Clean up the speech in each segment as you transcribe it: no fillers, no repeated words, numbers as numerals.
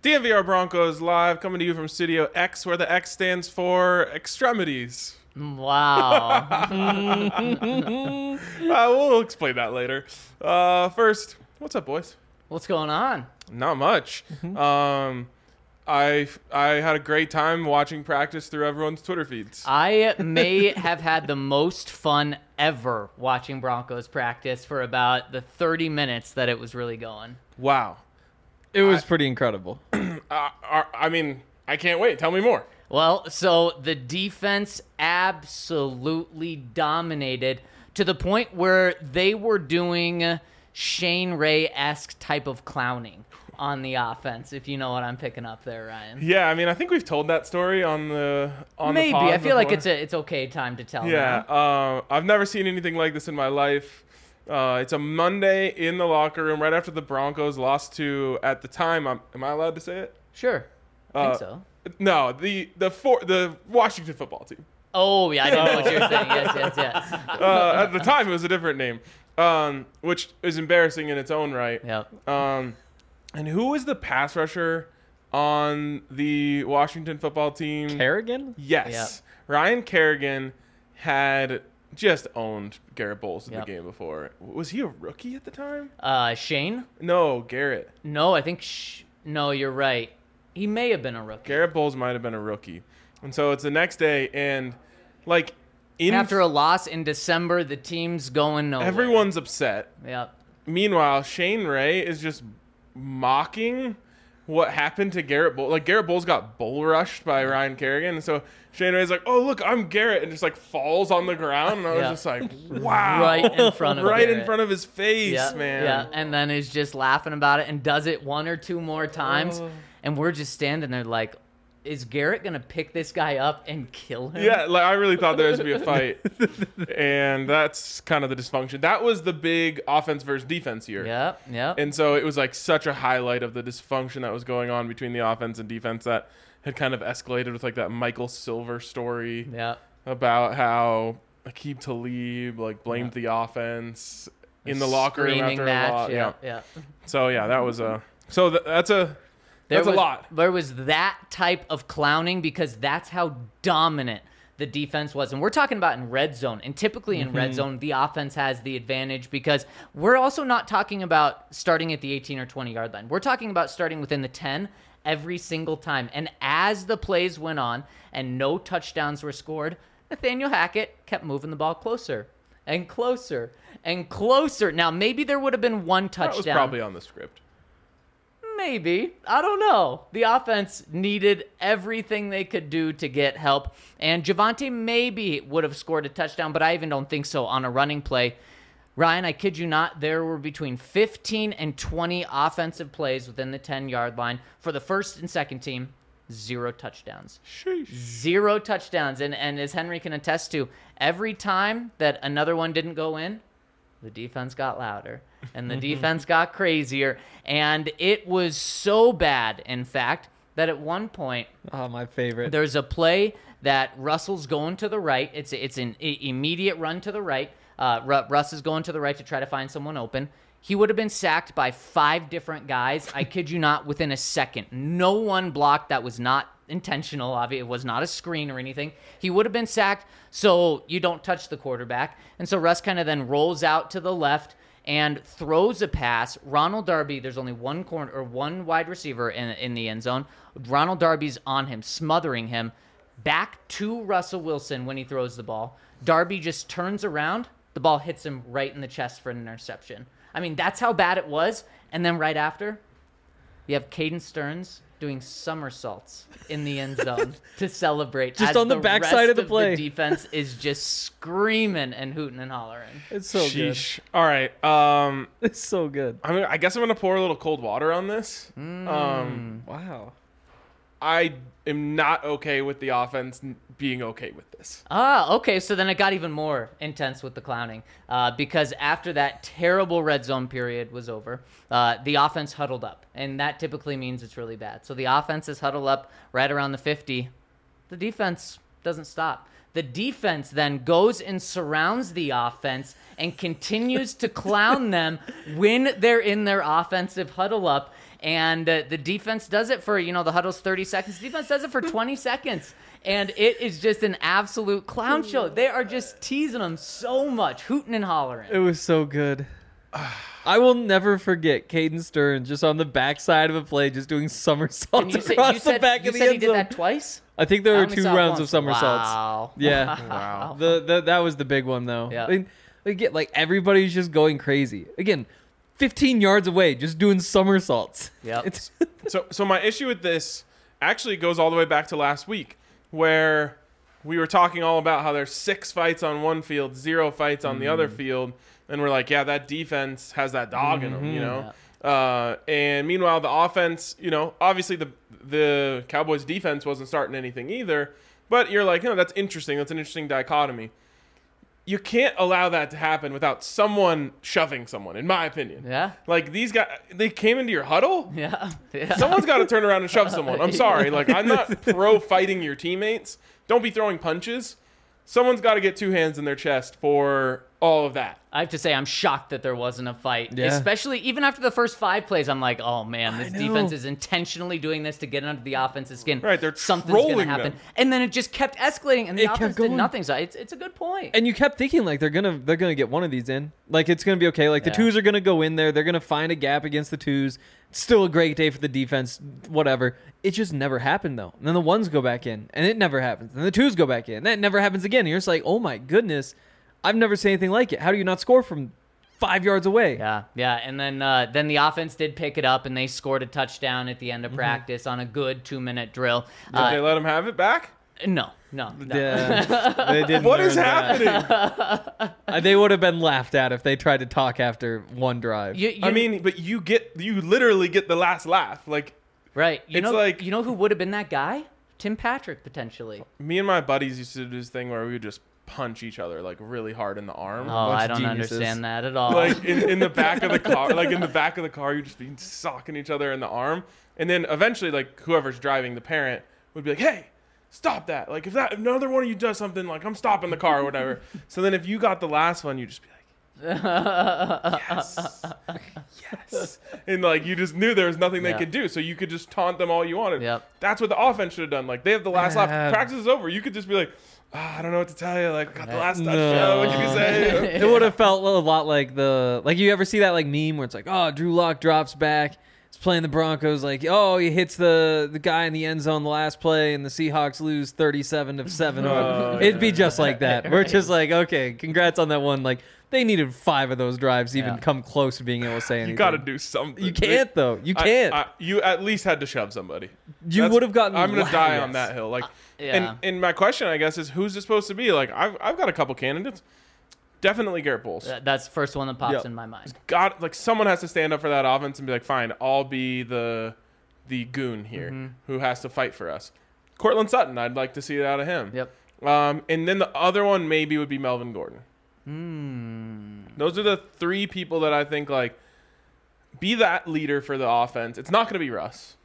DNVR Broncos live, coming to you from Studio X, where the X stands for extremities. Wow. We'll explain that later. First, what's up, boys? What's going on? Not much. I had a great time watching practice through everyone's Twitter feeds. I may have had the most fun ever watching Broncos practice for about the 30 minutes that it was really going. Wow. It was pretty incredible. I mean, I can't wait. Tell me more. Well, so the defense absolutely dominated to the point where they were doing Shane Ray-esque type of clowning on the offense, if you know what I'm picking up there, Ryan. Yeah, I mean, I think we've told that story on the Maybe. the pod I feel like before. it's okay time to tell Yeah, now. I've never seen anything like this in my life. It's a Monday in the locker room right after the Broncos lost to, at the time, am I allowed to say it? Sure. I think so. No, the Washington football team. Oh, yeah, I didn't know what you were saying. Yes. At the time, it was a different name, which is embarrassing in its own right. Yep. And who was the pass rusher on the Washington football team? Kerrigan? Yes. Yep. Ryan Kerrigan had just owned Garrett Bowles in Yep. the game before. Was he a rookie at the time? Shane? No, Garrett. No, I think... No, you're right. He may have been a rookie. Garrett Bowles might have been a rookie. And so it's the next day, and like After a loss in December, the team's going nowhere. everyone's upset. Yep. Meanwhile, Shane Ray is just mocking what happened to Garrett Bowles. Like, Garrett Bowles got bull rushed by Ryan Kerrigan, and so Shane Ray's like, "Oh, look, I'm Garrett," and just like falls on the ground, and I was Yeah. just like, "Wow!" Right in front of right in Garrett. front of his face, Yeah, man. Yeah, and then is just laughing about it and does it one or two more times, and we're just standing there like, is Garrett gonna pick this guy up and kill him? Yeah, like I really thought there was gonna be a fight, and that's kind of the dysfunction. That was the big offense versus defense here. Yep. And so it was like such a highlight of the dysfunction that was going on between the offense and defense that had kind of escalated with like that Michael Silver story Yep. about how Aqib Talib like blamed the offense in the locker room Screaming after match. a lot. Yeah. So yeah, that was a that's a There was lot. There was that type of clowning because that's how dominant the defense was. And we're talking about in red zone. And typically in red zone, the offense has the advantage because we're also not talking about starting at the 18 or 20-yard line. We're talking about starting within the 10 every single time. And as the plays went on and no touchdowns were scored, Nathaniel Hackett kept moving the ball closer and closer and closer. Now, maybe there would have been one touchdown. That was probably on the script. Maybe. I don't know. The offense needed everything they could do to get help. And Javonte maybe would have scored a touchdown, but I even don't think so on a running play. Ryan, I kid you not, there were between 15 and 20 offensive plays within the 10-yard line. For the first and second team, 0 touchdowns. Sheesh. 0 touchdowns. And as Henry can attest to, every time that another one didn't go in, the defense got louder and the defense got crazier. And it was so bad, in fact, that at one point, Oh, my favorite. there's a play that Russell's going to the right. It's an immediate run to the right. Russ is going to the right to try to find someone open. He would have been sacked by 5 different guys. I kid you not, within a second. No one blocked. That was not intentional. Obviously, it was not a screen or anything. He would have been sacked, so you don't touch the quarterback. And so Russ kind of then rolls out to the left and throws a pass. Ronald Darby, there's only one corner or one wide receiver in the end zone. Ronald Darby's on him, smothering him. Back to Russell Wilson when he throws the ball. Darby just turns around. The ball hits him right in the chest for an interception. I mean, that's how bad it was. And then right after, you have Caden Stearns doing somersaults in the end zone to celebrate. Just as on the backside rest of the play. The defense is just screaming and hooting and hollering. It's so Sheesh. All right. good. It's so good. I guess I'm gonna pour a little cold water on this. Wow. I am not okay with the offense being okay with this. Okay, so then it got even more intense with the clowning because after that terrible red zone period was over, the offense huddled up, and that typically means it's really bad. So the offense is huddled up right around the 50. The defense doesn't stop. The defense then goes and surrounds the offense and continues to clown them when they're in their offensive huddle up. And the defense does it for, the huddle's 30 seconds. The defense does it for 20 seconds. And it is just an absolute clown show. They are just teasing them so much, hooting and hollering. It was so good. I will never forget Caden Stearns just on the backside of a play, just doing somersaults across the back of the end zone. You said he did that twice? I think there I were only 2 saw it rounds once. of somersaults. Wow. Yeah. Wow. That was the big one, though. Yeah. Everybody's just going crazy. Again, 15 yards away, just doing somersaults. Yep. It's So my issue with this actually goes all the way back to last week, where we were talking all about how there's 6 fights on one field, 0 fights on the other field, and we're like, yeah, that defense has that dog in them, and meanwhile, the offense, obviously the Cowboys defense wasn't starting anything either, but you're like, that's interesting. That's an interesting dichotomy. You can't allow that to happen without someone shoving someone, in my opinion. Yeah. Like, these guys, they came into your huddle. Yeah. Someone's got to turn around and shove someone. I'm sorry. Like, I'm not pro fighting your teammates. Don't be throwing punches. Someone's got to get 2 hands in their chest for all of that. I have to say, I'm shocked that there wasn't a fight. Yeah. Especially even after the first 5 plays, I'm like, oh man, this I know. defense is intentionally doing this to get under the offense's skin. Right, they're something's gonna trolling happen, them. and then it just kept escalating, and the It kept offense did going. nothing. So it's a good point. And you kept thinking like they're gonna get one of these in. Like it's gonna be okay. Like the Yeah. 2s are gonna go in there. They're gonna find a gap against the 2s. It's still a great day for the defense. Whatever. It just never happened though. And then the 1s go back in, and it never happens. And the 2s go back in, and that never happens again. And you're just like, oh my goodness, I've never seen anything like it. How do you not score from 5 yards away? Yeah, and then the offense did pick it up, and they scored a touchdown at the end of practice on a good 2-minute drill. Did they let him have it back? No. Yeah, they didn't. What is learn that. happening? They would have been laughed at if they tried to talk after one drive. You But you literally get the last laugh. Like, right? it's like- you know who would have been that guy? Tim Patrick potentially. me and my buddies used to do this thing where we would just punch each other like really hard in the arm. Oh, I of don't geniuses. understand that at all. Like in the back of the car, you just be socking each other in the arm, and then eventually, like whoever's driving, the parent would be like, "Hey, stop that! Like if another one of you does something, like I'm stopping the car or whatever." So then if you got the last one, you just be like, "Yes, yes," and like you just knew there was nothing they Yeah. could do, so you could just taunt them all you wanted. Yep. That's what the offense should have done. Like they have the last lap, Yeah. practice is over. You could just be like, I don't know what to tell you. Like, got the last No. touchdown. What can you say? It would have felt a lot like you ever see that like meme where it's like, oh, Drew Lock drops back, he's playing the Broncos, like, oh, he hits the guy in the end zone the last play, and the Seahawks lose 37-7. Oh, It'd be just like that. We're just like, okay, congrats on that one. Like they needed 5 of those drives to even Yeah. come close to being able to say anything. You got to do something. You can't though. You can't. You at least had to shove somebody. You would have gotten. I'm gonna die on yes. that hill. Like, yeah. and my question, I guess, is who's it supposed to be? Like, I've got a couple candidates. Definitely Garrett Bowles. That's the first one that pops Yep. in my mind. Someone has to stand up for that offense and be like, fine, I'll be the goon here who has to fight for us. Cortland Sutton, I'd like to see it out of him. Yep. And then the other one maybe would be Melvin Gordon. Those are the 3 people that I think like be that leader for the offense. It's not going to be Russ.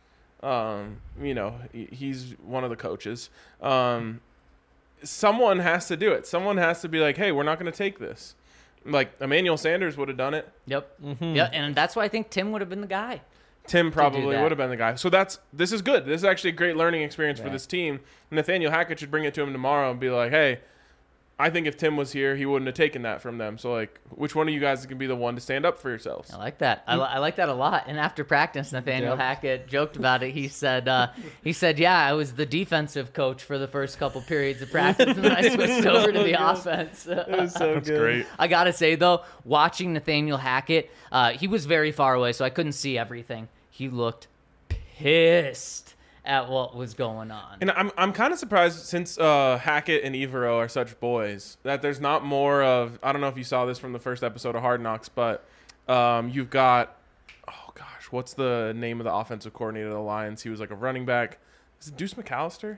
He's one of the coaches. Someone has to do it. Someone has to be like, hey, we're not going to take this. Like Emmanuel Sanders would have done it. Yep. Yeah, and that's why I think Tim would have been the guy. Tim probably that. would have been the guy. So this is good. This is actually a great learning experience for this team. Nathaniel Hackett should bring it to him tomorrow and be like, hey, I think if Tim was here, he wouldn't have taken that from them. So, like, which one of you guys can be the one to stand up for yourselves? I like that. I like that a lot. And after practice, Nathaniel Hackett joked about it. He said, yeah, I was the defensive coach for the first couple periods of practice, and then I switched over to the offense. It was so That's good. great. I got to say, though, watching Nathaniel Hackett, he was very far away, so I couldn't see everything. He looked pissed at what was going on. And I'm kind of surprised since Hackett and Evero are such boys that there's not more of, I don't know if you saw this from the first episode of Hard Knocks, but you've got, oh gosh, what's the name of the offensive coordinator of the Lions? He was like a running back. Is it Deuce McAllister?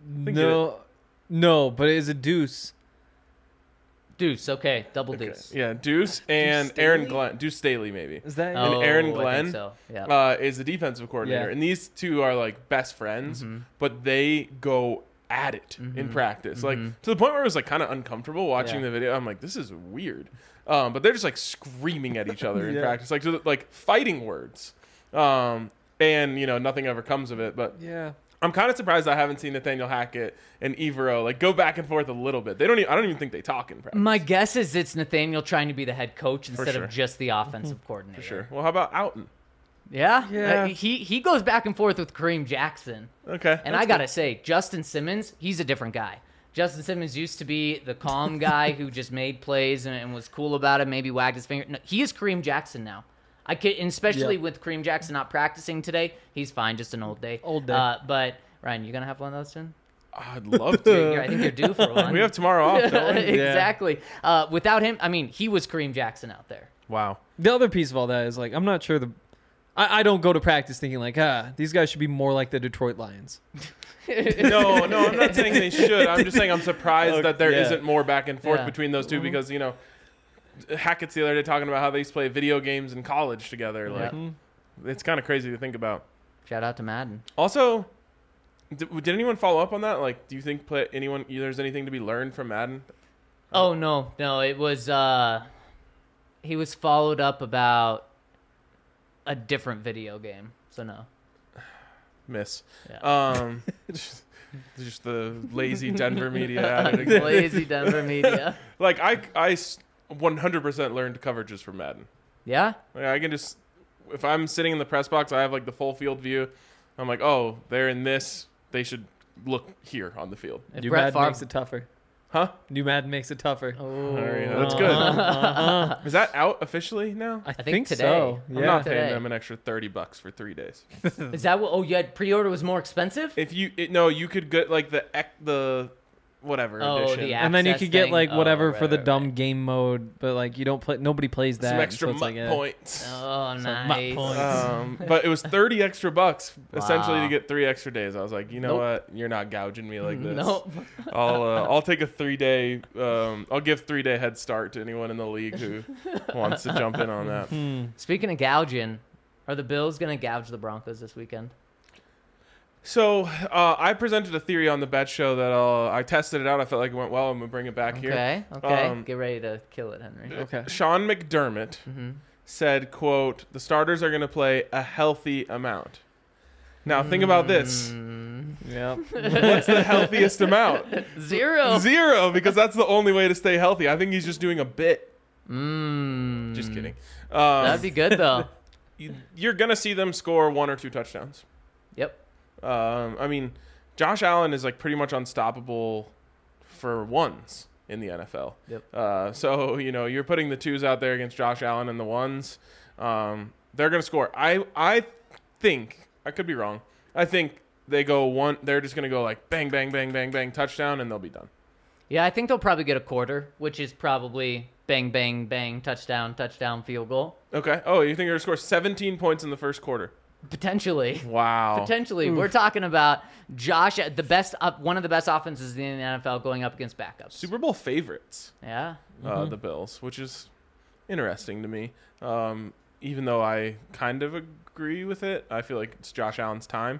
No, but it is a deuce. Deuce, okay, double Okay. deuce. Yeah, Deuce and Deuce Aaron Staley? Glenn. Deuce Staley, maybe. Is that? And Aaron I think Glenn, so. Yeah. Is the defensive coordinator. Yeah. And these two are like best friends, but they go at it in practice. Like to the point where it was like kind of uncomfortable watching Yeah. the video. I'm like, this is weird. But they're just like screaming at each other in Yeah. practice, like fighting words. and nothing ever comes of it. But Yeah. I'm kind of surprised I haven't seen Nathaniel Hackett and Evero like go back and forth a little bit. I don't even think they talk in practice. My guess is it's Nathaniel trying to be the head coach instead sure. of just the offensive coordinator. For sure. Well, how about Outen? Yeah. Yeah. He goes back and forth with Kareem Jackson. Okay. And I got to say, Justin Simmons, he's a different guy. Justin Simmons used to be the calm guy who just made plays and was cool about it, maybe wagged his finger. No, he is Kareem Jackson now. And especially with Kareem Jackson not practicing today, he's fine, just an old day. Old day. But, Ryan, you going to have one of those soon? I'd love to. I think you're due for one. We have tomorrow off, don't we? Exactly. Without him, I mean, he was Kareem Jackson out there. Wow. The other piece of all that is like I'm not sure I don't go to practice thinking like these guys should be more like the Detroit Lions. No, I'm not saying they should. I'm just saying I'm surprised that there Yeah. not more back and forth Yeah. between those two because Hackett's the other day talking about how they used to play video games in college together. Like it's kind of crazy to think about. Shout out to Madden. Also, did anyone follow up on that? Like, do you think there's anything to be learned from Madden? Oh, no. It was, he was followed up about a different video game. So, no. Miss. Yeah. Just the lazy Denver media at it again. Lazy Denver media. Like, I 100% learned coverages from Madden. Yeah? Like, I can just, if I'm sitting in the press box, I have like the full field view. I'm like, oh, they're in this. They should look here on the field. If New Brett Madden Favre... makes it tougher. Huh? New Madden makes it tougher. Oh. That's good. Is that out officially now? I think today. so. I'm Yeah. not Today. paying them an extra $30 for 3 days. Is that what... Oh, you had pre-order was more expensive? If you could get like the whatever edition. the And then you access could get thing. like whatever Oh, for the right, dumb right. game mode, but like you don't play. Nobody plays that. Some and extra so it's like, points. Oh, Some nice. points. But it was $30 extra essentially Wow. to get 3 extra days. I was like, you know Nope. what? You're not gouging me like this. Nope. I'll take a 3-day. I'll give 3-day head start to anyone in the league who wants to jump in on that. Speaking of gouging, are the Bills going to gouge the Broncos this weekend? So I presented a theory on the bet show that I tested it out. I felt like it went well. I'm gonna bring it back here. Okay. Get ready to kill it, Henry. Okay. Sean McDermott said, "quote The starters are gonna play a healthy amount." Now think about this. Yeah. What's the healthiest amount? 0. 0, because that's the only way to stay healthy. I think he's just doing a bit. Just Just kidding. That'd be good, though. You're gonna see them score 1 or 2 touchdowns. Yep. I mean, Josh Allen is like pretty much unstoppable for ones in the NFL. Yep. So you're putting the 2s out there against Josh Allen and the 1s. They're gonna score. I think I could be wrong. I think they go one. They're just gonna go like bang, bang, bang, bang, bang, touchdown, and they'll be done. Yeah, I think they'll probably get a quarter, which is probably bang, bang, bang, touchdown, field goal. Okay. Oh, you think they're gonna score 17 points in the first quarter? Potentially. Wow. Potentially. We're talking about Josh, one of the best offenses in the NFL going up against backups. Super Bowl favorites. Yeah. The Bills, which is interesting to me. Even though I kind of agree with it, I feel like it's Josh Allen's time.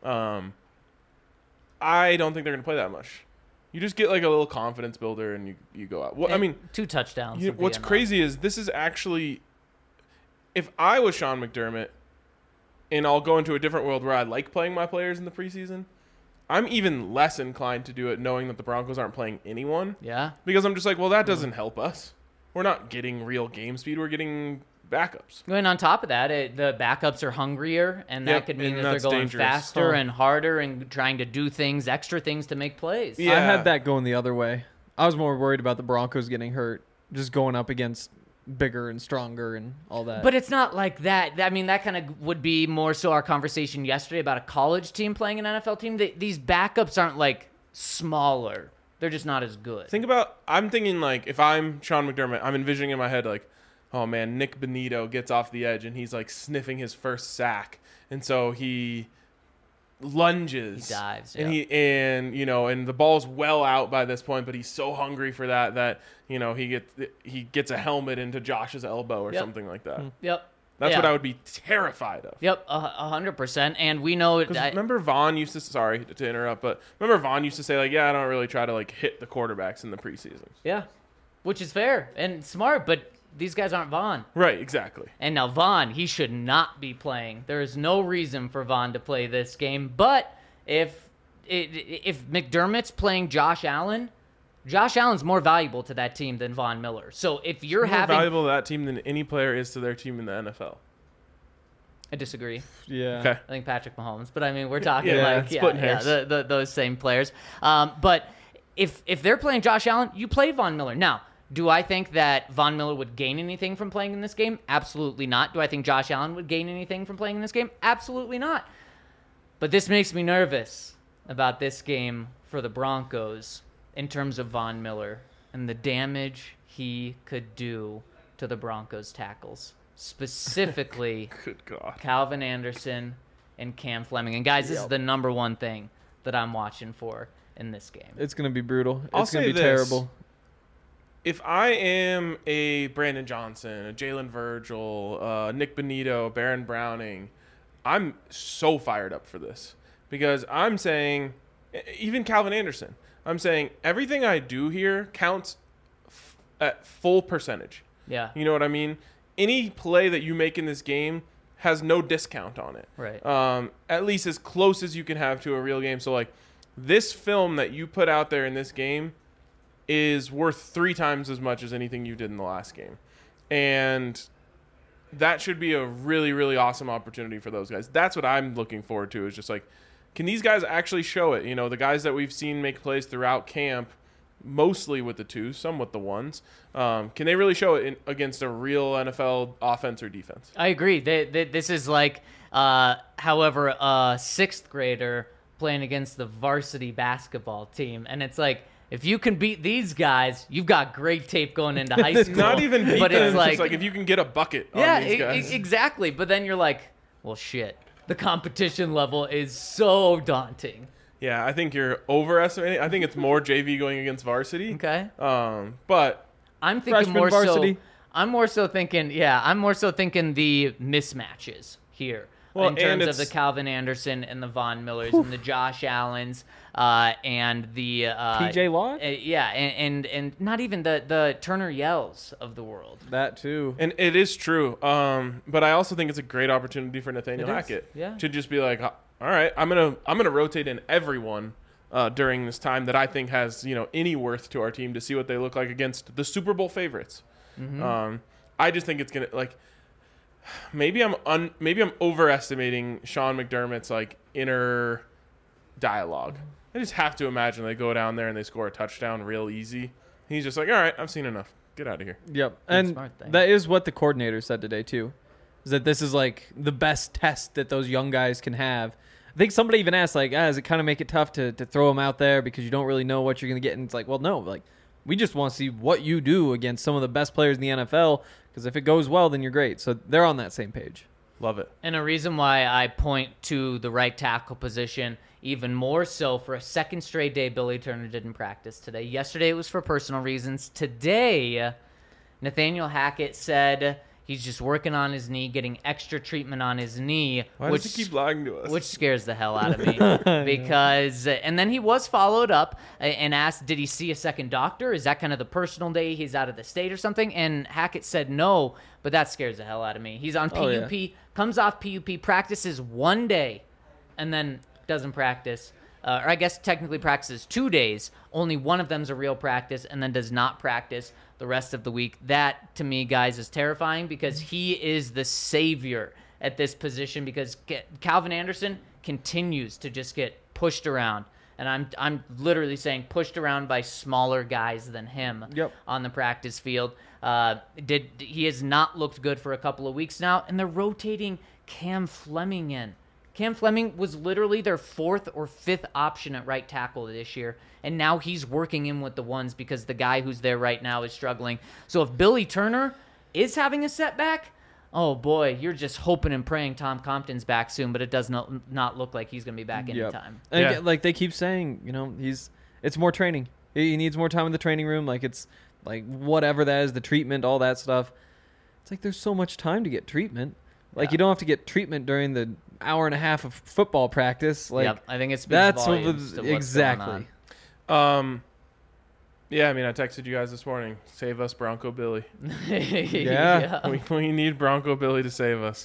I don't think they're going to play that much. You just get like a little confidence builder and you go out. Well, I mean, 2 touchdowns. would be what's enough. crazy is this is actually, if I was Sean McDermott, and I'll go into a different world where I like playing my players in the preseason, I'm even less inclined to do it knowing that the Broncos aren't playing anyone. Yeah. Because I'm just like, well, that doesn't help us. We're not getting real game speed. We're getting backups. And on top of that, the backups are hungrier, and that Yep, could mean and that they're that's going dangerous. faster and harder and trying to do extra things to make plays. Yeah. I had that going the other way. I was more worried about the Broncos getting hurt, just going up against bigger and stronger and all that. But it's not like that. I mean, that kind of would be more so our conversation yesterday about a college team playing an NFL team. These backups aren't like smaller. They're just not as good. I'm thinking like, if I'm Sean McDermott, I'm envisioning in my head like, oh man, Nick Benito gets off the edge and he's like sniffing his first sack. And so he lunges. He dives, And yeah. and the ball's well out by this point, but he's so hungry for that he gets a helmet into Josh's elbow or Yep. something like that. Yep. That's Yeah. what I would be terrified of. Yep, 100%. And we know Because remember Vaughn used to, sorry to interrupt, but remember Vaughn used to say like, yeah, I don't really try to like hit the quarterbacks in the preseason. Yeah, which is fair and smart, but these guys aren't Vaughn. Right, exactly. And now Vaughn, he should not be playing. There is no reason for Vaughn to play this game. But if McDermott's playing Josh Allen's more valuable to that team than Von Miller. So if you're More having, valuable to that team than any player is to their team in the NFL. I disagree. Yeah. Okay. I think Patrick Mahomes, but I mean we're talking Yeah, splitting hairs. those same players. But if they're playing Josh Allen, you play Von Miller. Now, do I think that Von Miller would gain anything from playing in this game? Absolutely not. Do I think Josh Allen would gain anything from playing in this game? Absolutely not. But this makes me nervous about this game for the Broncos in terms of Von Miller and the damage he could do to the Broncos tackles, specifically Good God. Calvin Anderson and Cam Fleming. And guys, this is the number one thing that I'm watching for in this game. It's going to be brutal. I'll It's going to say be this. terrible. If I am a Brandon Johnson, a Jalen Virgil, Nick Benito, Baron Browning, I'm so fired up for this because I'm saying, even Calvin Anderson, I'm saying everything I do here counts at full percentage. Yeah. You know what I mean? Any play that you make in this game has no discount on it. Right. At least as close as you can have to a real game. So, like, this film that you put out there in this game is worth 3 times as much as anything you did in the last game. And that should be a really, really awesome opportunity for those guys. That's what I'm looking forward to, is just like, can these guys actually show it? You know, the guys that we've seen make plays throughout camp, mostly with the 2s, some with the 1s. Can they really show it against a real NFL offense or defense? I agree. This is like, however, a 6th grader playing against the varsity basketball team. And it's like, if you can beat these guys, you've got great tape going into high school. Not even beat but them, it's like, just like if you can get a bucket yeah, on these guys. exactly. But then you're like, well, shit. The competition level is so daunting. Yeah, I think you're overestimating. I think it's more JV going against varsity. Okay. But I'm thinking Freshman more varsity. so. I'm more so thinking the mismatches here Well, in terms and of the it's- Calvin Anderson and the Von Millers and the Josh Allens and the PJ Locke? yeah, and not even the Turner Yells of the world. That too. and it is true. But I also think it's a great opportunity for Nathaniel It is, Hackett yeah. to just be like, all right, I'm gonna rotate in everyone during this time that I think has any worth to our team to see what they look like against the Super Bowl favorites. Mm-hmm. I just think it's gonna like. Maybe I'm overestimating Sean McDermott's like inner dialogue. I just have to imagine they go down there and they score a touchdown real easy. He's just like, all right, I've seen enough. Get out of here. Yep. And smart thing. that is what the coordinator said today too. Is that this is like the best test that those young guys can have. I think somebody even asked like, does it kind of make it tough to throw them out there because you don't really know what you're going to get? And it's like, well, no, like we just want to see what you do against some of the best players in the NFL, because if it goes well, then you're great. So they're on that same page. Love it. And a reason why I point to the right tackle position even more so, for a second straight day, Billy Turner didn't practice today. Yesterday it was for personal reasons. Today, Nathaniel Hackett said he's just working on his knee, getting extra treatment on his knee. Why does he keep lying to us? Which scares the hell out of me because, and then he was followed up and asked, did he see a second doctor? Is that kind of the personal day he's out of the state or something? And Hackett said no, but that scares the hell out of me. He's on PUP, comes off PUP, practices one day, and then doesn't practice. Or I guess technically practices 2 days. Only one of them's a real practice, and then does not practice the rest of the week. That, to me, guys, is terrifying because he is the savior at this position, because Calvin Anderson continues to just get pushed around. And I'm literally saying pushed around by smaller guys than him on the practice field. He has not looked good for a couple of weeks now, and they're rotating Cam Fleming in. Cam Fleming was literally their 4th or 5th option at right tackle this year, and now he's working in with the ones because the guy who's there right now is struggling. So if Billy Turner is having a setback, oh boy, you're just hoping and praying Tom Compton's back soon, but it does not look like he's going to be back anytime. And Yeah. like they keep saying, it's more training. He needs more time in the training room. Like it's like whatever that is, the treatment, all that stuff. It's like there's so much time to get treatment. Like you don't have to get treatment during the hour and a half of football practice. Like I think it speaks that's volumes to what's exactly. going on. Yeah, I mean, I texted you guys this morning. Save us, Bronco Billy. Yeah. We need Bronco Billy to save us.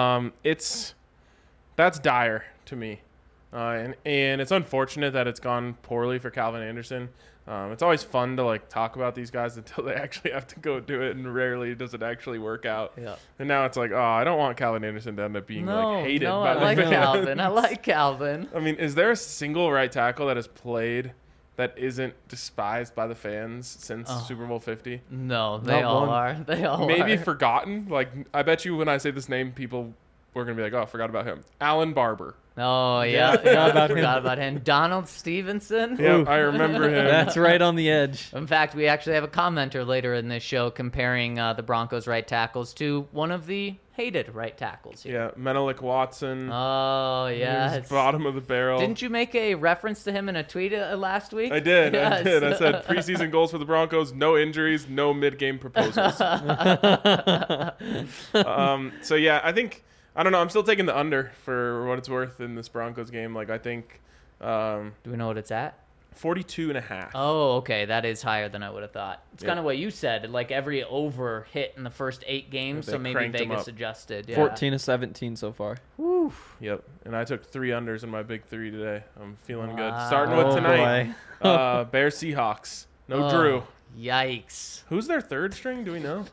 That's dire to me, and it's unfortunate that it's gone poorly for Calvin Anderson. It's always fun to like talk about these guys until they actually have to go do it, and rarely does it actually work out. Yeah. And now it's like, oh, I don't want Calvin Anderson to end up being like hated no, by I the like fans. Calvin. I like Calvin. I mean, is there a single right tackle that has played that isn't despised by the fans since Super Bowl 50? No, they Not all one. are. They all Maybe are. forgotten. Like, I bet you when I say this name, people were gonna be like, "Oh, I forgot about him." Alan Barber. Oh yeah, forgot forgot about him. about him. Donald Stevenson. Yeah, I remember him. That's right on the edge. In fact, we actually have a commenter later in this show comparing the Broncos' right tackles to one of the hated right tackles here. Yeah, Menelik Watson. Oh He was yeah. bottom of the barrel. Didn't you make a reference to him in a tweet last week? I did. Yes. I did. I said preseason goals for the Broncos: no injuries, no mid-game proposals. So yeah, I don't know. I'm still taking the under for what it's worth in this Broncos game. Like I think Do we know what it's at? 42.5. Oh, okay. That is higher than I would have thought. It's Yeah. kind of what you said. Like every over hit in the first 8 games, They so maybe cranked 'em Vegas up. adjusted. Yeah. 14 to 17 so far. Woo. Yep. And I took 3 unders in my big 3 today. I'm feeling good. Wow. Starting with Oh, tonight. Bears Seahawks. No Oh, Drew. Yikes. Who's their third string? Do we know?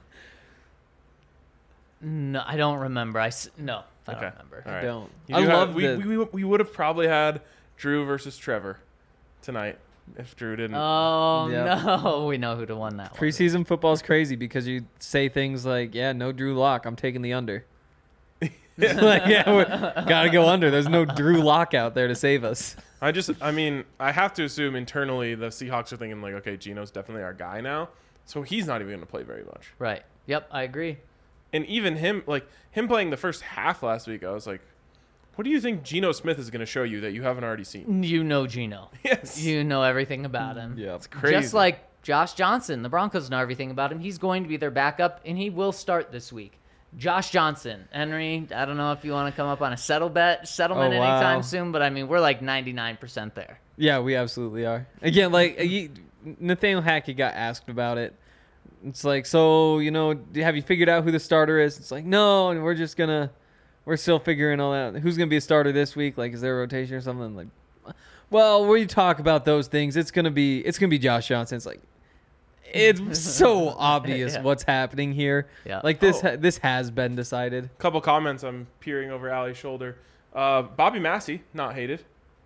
No, I don't remember. No, I don't Okay. remember. All I right. don't. You I do have- love we would have probably had Drew versus Trevor tonight if Drew didn't. Oh Yep. no, we know who to won that one. Preseason football is crazy because you say things like, "Yeah, no Drew Lock. I'm taking the under." Like, yeah, we gotta go under. There's no Drew Lock out there to save us. I have to assume internally the Seahawks are thinking like, okay, Geno's definitely our guy now, so he's not even going to play very much. Right. Yep, I agree. And even him playing the first half last week, I was like, what do you think Geno Smith is going to show you that you haven't already seen? You know Geno. Yes. You know everything about him. Yeah, It's crazy. Just like Josh Johnson, the Broncos know everything about him. He's going to be their backup, and he will start this week. Josh Johnson, Henry. I don't know if you want to come up on a settlement Oh, wow. anytime soon, but I mean we're like 99% there. Yeah, we absolutely are. Again, like Nathaniel Hackett got asked about it. It's like, so have you figured out who the starter is? It's like, no, and we're still figuring all that. Who's gonna be a starter this week? Like, is there a rotation or something? Like, well, when you talk about those things, it's gonna be Josh Johnson. It's like, it's so obvious Yeah. what's happening here. Yeah. Like this has been decided. Couple comments. I'm peering over Ali's shoulder. Bobby Massey, not hated.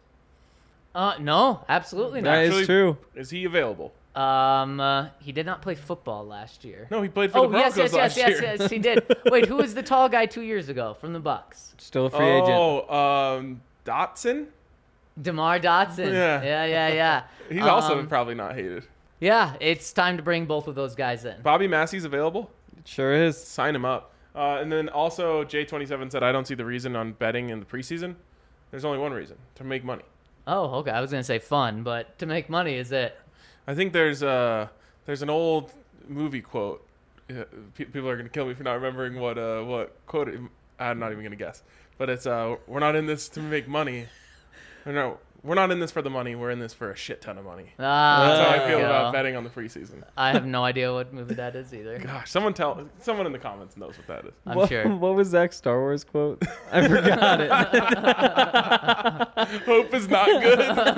No, absolutely not. That Actually- is true. Is he available? He did not play football last year. No, he played for Oh the Broncos last year. yes, he did. Wait, who was the tall guy 2 years ago from the Bucks? Still a free agent. Oh, Dotson. DeMar Dotson. Yeah. Yeah. He's also probably not hated. Yeah, it's time to bring both of those guys in. Bobby Massey's available. It sure is. Sign him up. And then also J27 said, I don't see the reason on betting in the preseason. There's only one reason: to make money. Oh, okay. I was gonna say fun, but to make money is it? I think there's an old movie quote. People are gonna kill me for not remembering what quote. I'm not even gonna guess. But it's we're not in this to make money. No, we're not in this for the money. We're in this for a shit ton of money. That's how I feel about betting on the preseason. I have no idea what movie that is either. Gosh, someone in the comments knows what that is. I'm sure. What was Zach's Star Wars quote? I forgot it. Hope is not good.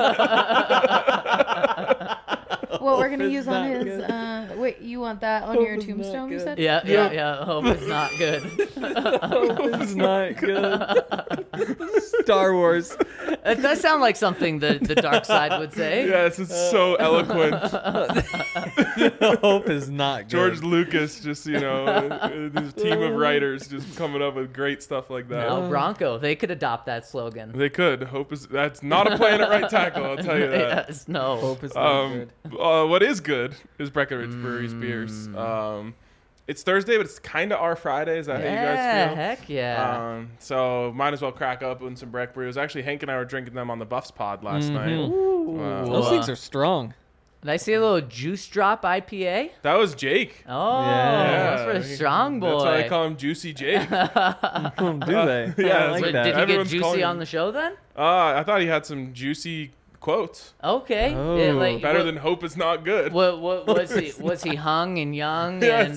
What we're gonna Hope is use on not his good. wait, you want that on Hope your is not tombstone, you good. said? Yeah. Hope it's not good. Hope is not good. Star Wars. It does sound like something the dark side would say. Yes, it's so eloquent. Hope is not good. George Lucas, just this team of writers just coming up with great stuff like that. No, Bronco. They could adopt that slogan. They could. That's not a plan at right tackle. I'll tell you that. Yes, no. Hope is not good. What is good is Breckenridge Brewery's beers. It's Thursday, but it's kind of our Friday. Is that how you guys feel? Heck yeah. So might as well crack up on some Breck brews. Actually, Hank and I were drinking them on the Buffs pod last night. Those things are strong. Did I see a little juice drop IPA? That was Jake. Oh, Yeah. that's for a strong boy. That's why I call him Juicy Jake. Do they? Yeah, I like so that. Did you get Everyone's calling juicy him- on the show then? I thought he had some juicy quotes. Okay. Oh. Yeah, like, Better what, than hope is not good. what was he? Was he hung and young? Yes.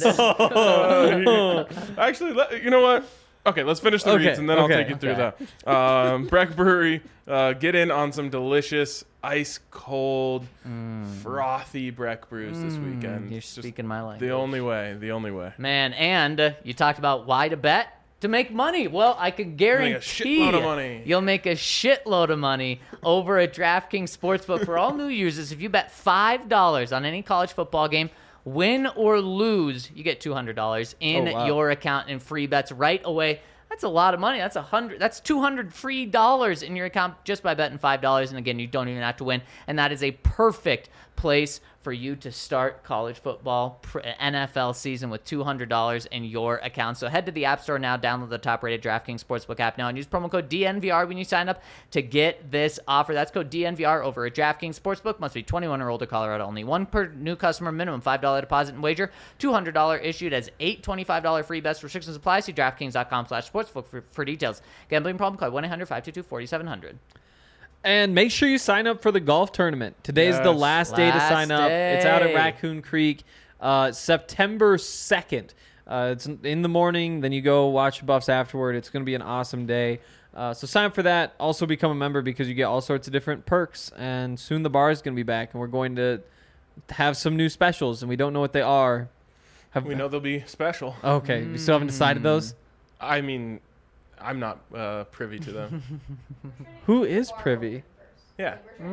Actually, you know what? Okay, let's finish the Okay, reads and then I'll okay, take you through that. Breck Brewery, get in on some delicious, ice cold, frothy Breck brews this weekend. You're It's just speaking my language. the only way. The only way. Man, and you talked about why to bet to make money. Well, I can guarantee shitload of money. you'll make a shitload of money over at DraftKings Sportsbook. For all new users, if you bet $5 on any college football game, win or lose, you get $200 in Oh, wow. your account in free bets right away. That's a lot of money. That's $200 free dollars in your account just by betting $5. And again, you don't even have to win. And that is a perfect place for you to start college football NFL season with $200 in your account. So head to the App Store now, download the top-rated DraftKings Sportsbook app now, and use promo code DNVR when you sign up to get this offer. That's code DNVR over at DraftKings Sportsbook. Must be 21 or older, Colorado only. One per new customer, minimum $5 deposit and wager. $200 issued as $825 free bets. Restrictions apply. See DraftKings.com/sportsbook for details. Gambling problem? Call 1-800-522-4700. And make sure you sign up for the golf tournament. Today's the Yes. last day to sign up. It's out at day. Raccoon Creek, September 2nd. It's in the morning. Then you go watch Buffs afterward. It's going to be an awesome day. So sign up for that. Also become a member because you get all sorts of different perks. And soon the bar is going to be back, and we're going to have some new specials, and we don't know what they are. We know they'll be special. Okay, we still haven't decided those. I mean, I'm not privy to them. Who is privy? Yeah.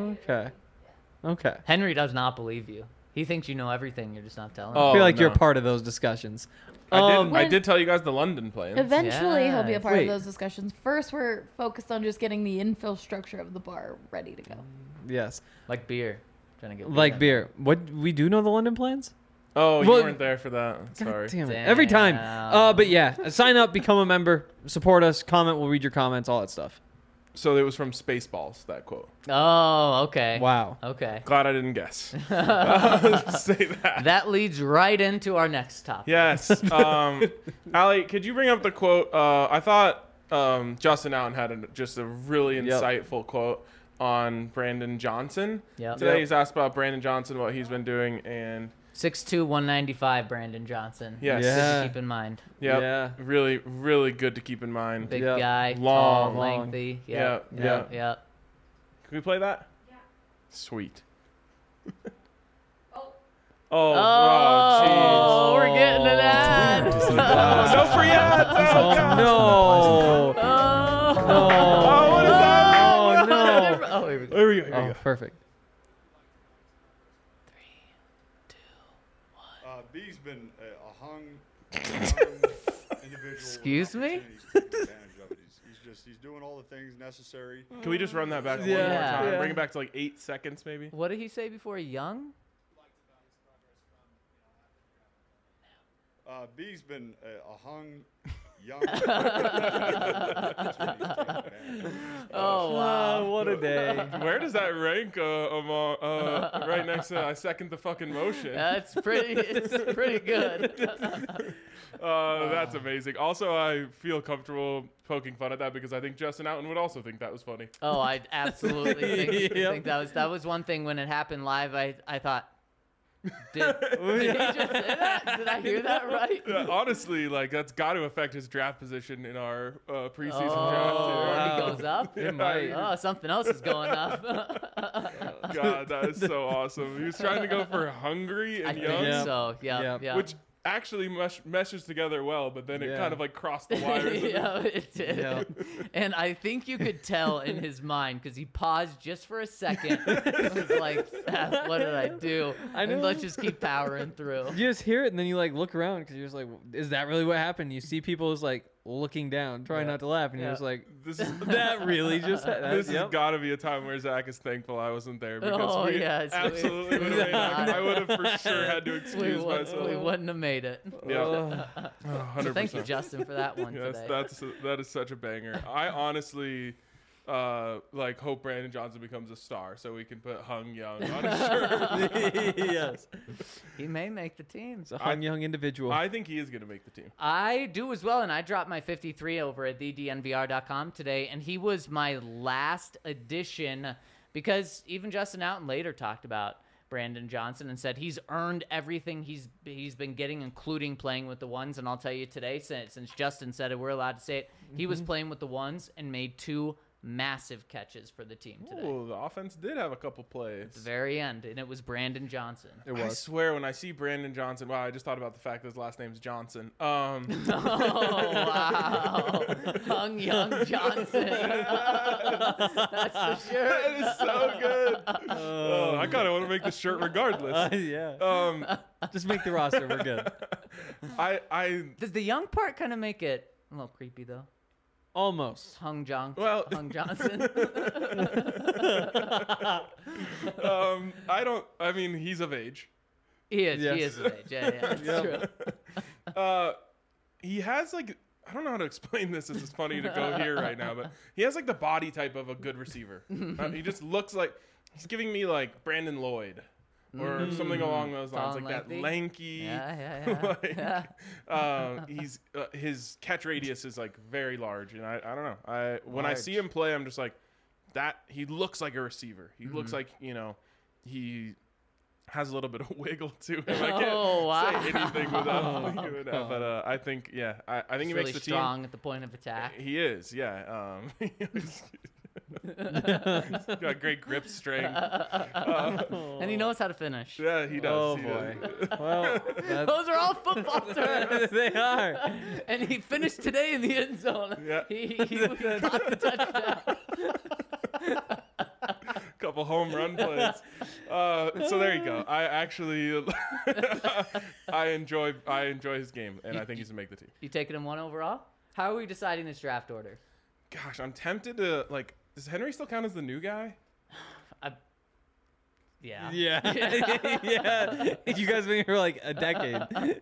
Okay. Henry does not believe you. He thinks you know everything. You're just not telling him. I Oh, feel like you're no. part of those discussions. I did tell you guys the London plans. Eventually, he'll be a Yes. part Wait. of those discussions. First, we're focused on just getting the infrastructure of the bar ready to go. Yes. Like beer. Trying to get Like in. beer. What we do know the London plans? Oh, you Well- weren't there for that. Sorry. Damn it. Every time. Damn. But yeah, sign up, become a member, support us, comment, we'll read your comments, all that stuff. So it was from Spaceballs, that quote. Oh, okay. Wow. Okay. Glad I didn't guess. Say that. That leads right into our next topic. Yes. Allie, could you bring up the quote? I thought Justin Allen had just a really Yep. insightful quote on Brandon Johnson. Yep. Today Yep. he's asked about Brandon Johnson, what he's been doing, and 6'2", 195, Brandon Johnson. yes. Good Yeah. to keep in mind. Yep. Yeah. Really, really good to keep in mind. Big Yep. guy, Long, tall, long. lengthy. Yep, Yep. yep. Yep. Can we play that? Yeah. Sweet. Oh, Oh, we're getting to that. jeez. No free ads. Oh, God. No. Oh, Oh, what is that? Oh, no. Oh, here we go. Here we go. Here we Oh, go. perfect. B's been a hung individual. Excuse me? He's taking advantage of it. He's doing all the things necessary. Can we just run that back one more Yeah. time? Yeah. Bring it back to like 8 seconds, maybe. What did he say before? Young? B's been a hung young. That's what he's taking advantage of. Oh, wow. what a day. Where does that rank among right next to I second the fucking motion? It's pretty good. That's amazing. Also, I feel comfortable poking fun at that because I think Justin Outen would also think that was funny. Oh, I absolutely think, Yep. think that was one thing when it happened live. I thought, did he just say that? Did I hear that right? Yeah, honestly, like that's got to affect his draft position in our preseason Oh, draft. he goes up. It might. Oh, something else is going up. Too. God, that is so awesome. He was trying to go for hungry I and think young, Yeah. so. Yeah, Yep. yeah. which actually meshes together well, but then it Yeah. kind of like crossed the wires. yeah, it did. Yeah. And I think you could tell in his mind because he paused just for a second. It was like, "Ah, what did I do? I know. And let's just keep powering through. You just hear it and then you like look around because you're just like, is that really what happened? You see people just like looking down, trying Yeah. not to laugh, and Yeah. you're just like, This is that really just this yep. has got to be a time where Zach is thankful I wasn't there because Oh, we yes, we- absolutely would we have. would I would have for sure had to We, excuse myself. we wouldn't have made it. Yeah, Ugh. 100%. So thank you, Justin, for that one Yes, today. that is such a banger. I honestly like hope Brandon Johnson becomes a star so we can put Hung Young on his shirt. yes. He may make the team. It's a hung young individual. I think he is going to make the team. I do as well, and I dropped my 53 over at thednvr.com today, and he was my last addition because even Justin Outen later talked about Brandon Johnson and said he's earned everything he's been getting, including playing with the ones. And I'll tell you today, since Justin said it, we're allowed to say it, he was playing with the ones and made 2 massive catches for the team today. Ooh, the offense did have a couple plays. At the very end, and it was Brandon Johnson. It I was. swear, when I see Brandon Johnson, wow, I just thought about the fact that his last name's Johnson. Oh, wow. Hung Young Johnson. That's for sure. That is so good. Oh, I kind of want to make the shirt regardless. Yeah. Just make the roster. We're good. I Does the young part kind of make it a little creepy, though? Almost. Hung Johnson. Well- Hung Johnson. I mean, he's of age. He is. Yes. He is of age. Yeah, that's true. He has like, I don't know how to explain this. This is funny to go here right now, but he has like the body type of a good receiver. He just looks like he's giving me like Brandon Lloyd or something along those lines, Tall like and that lengthy? lanky. Yeah. He's his catch radius is like very large, and I don't know. When I Large. see him play, I'm just like that. He looks like a receiver. He looks like he has a little bit of wiggle to him. I can't Oh, wow. say anything without thinking of that, but I think I think He's he really makes the strong at the point of attack. team. He is, yeah. He's got great grip strength. And he knows how to finish. Yeah, he does. Oh he boy. does. Well, Those are all football terms. they are. And he finished today in the end zone. Yeah. He caught the touchdown. Couple home run plays. So there you go. I actually I enjoy his game, and I think he's gonna make the team. You taking him 1 overall? How are we deciding this draft order? Gosh, I'm tempted to like. Does Henry still count as the new guy? Yeah. Yeah. Yeah. You guys been here for like a decade.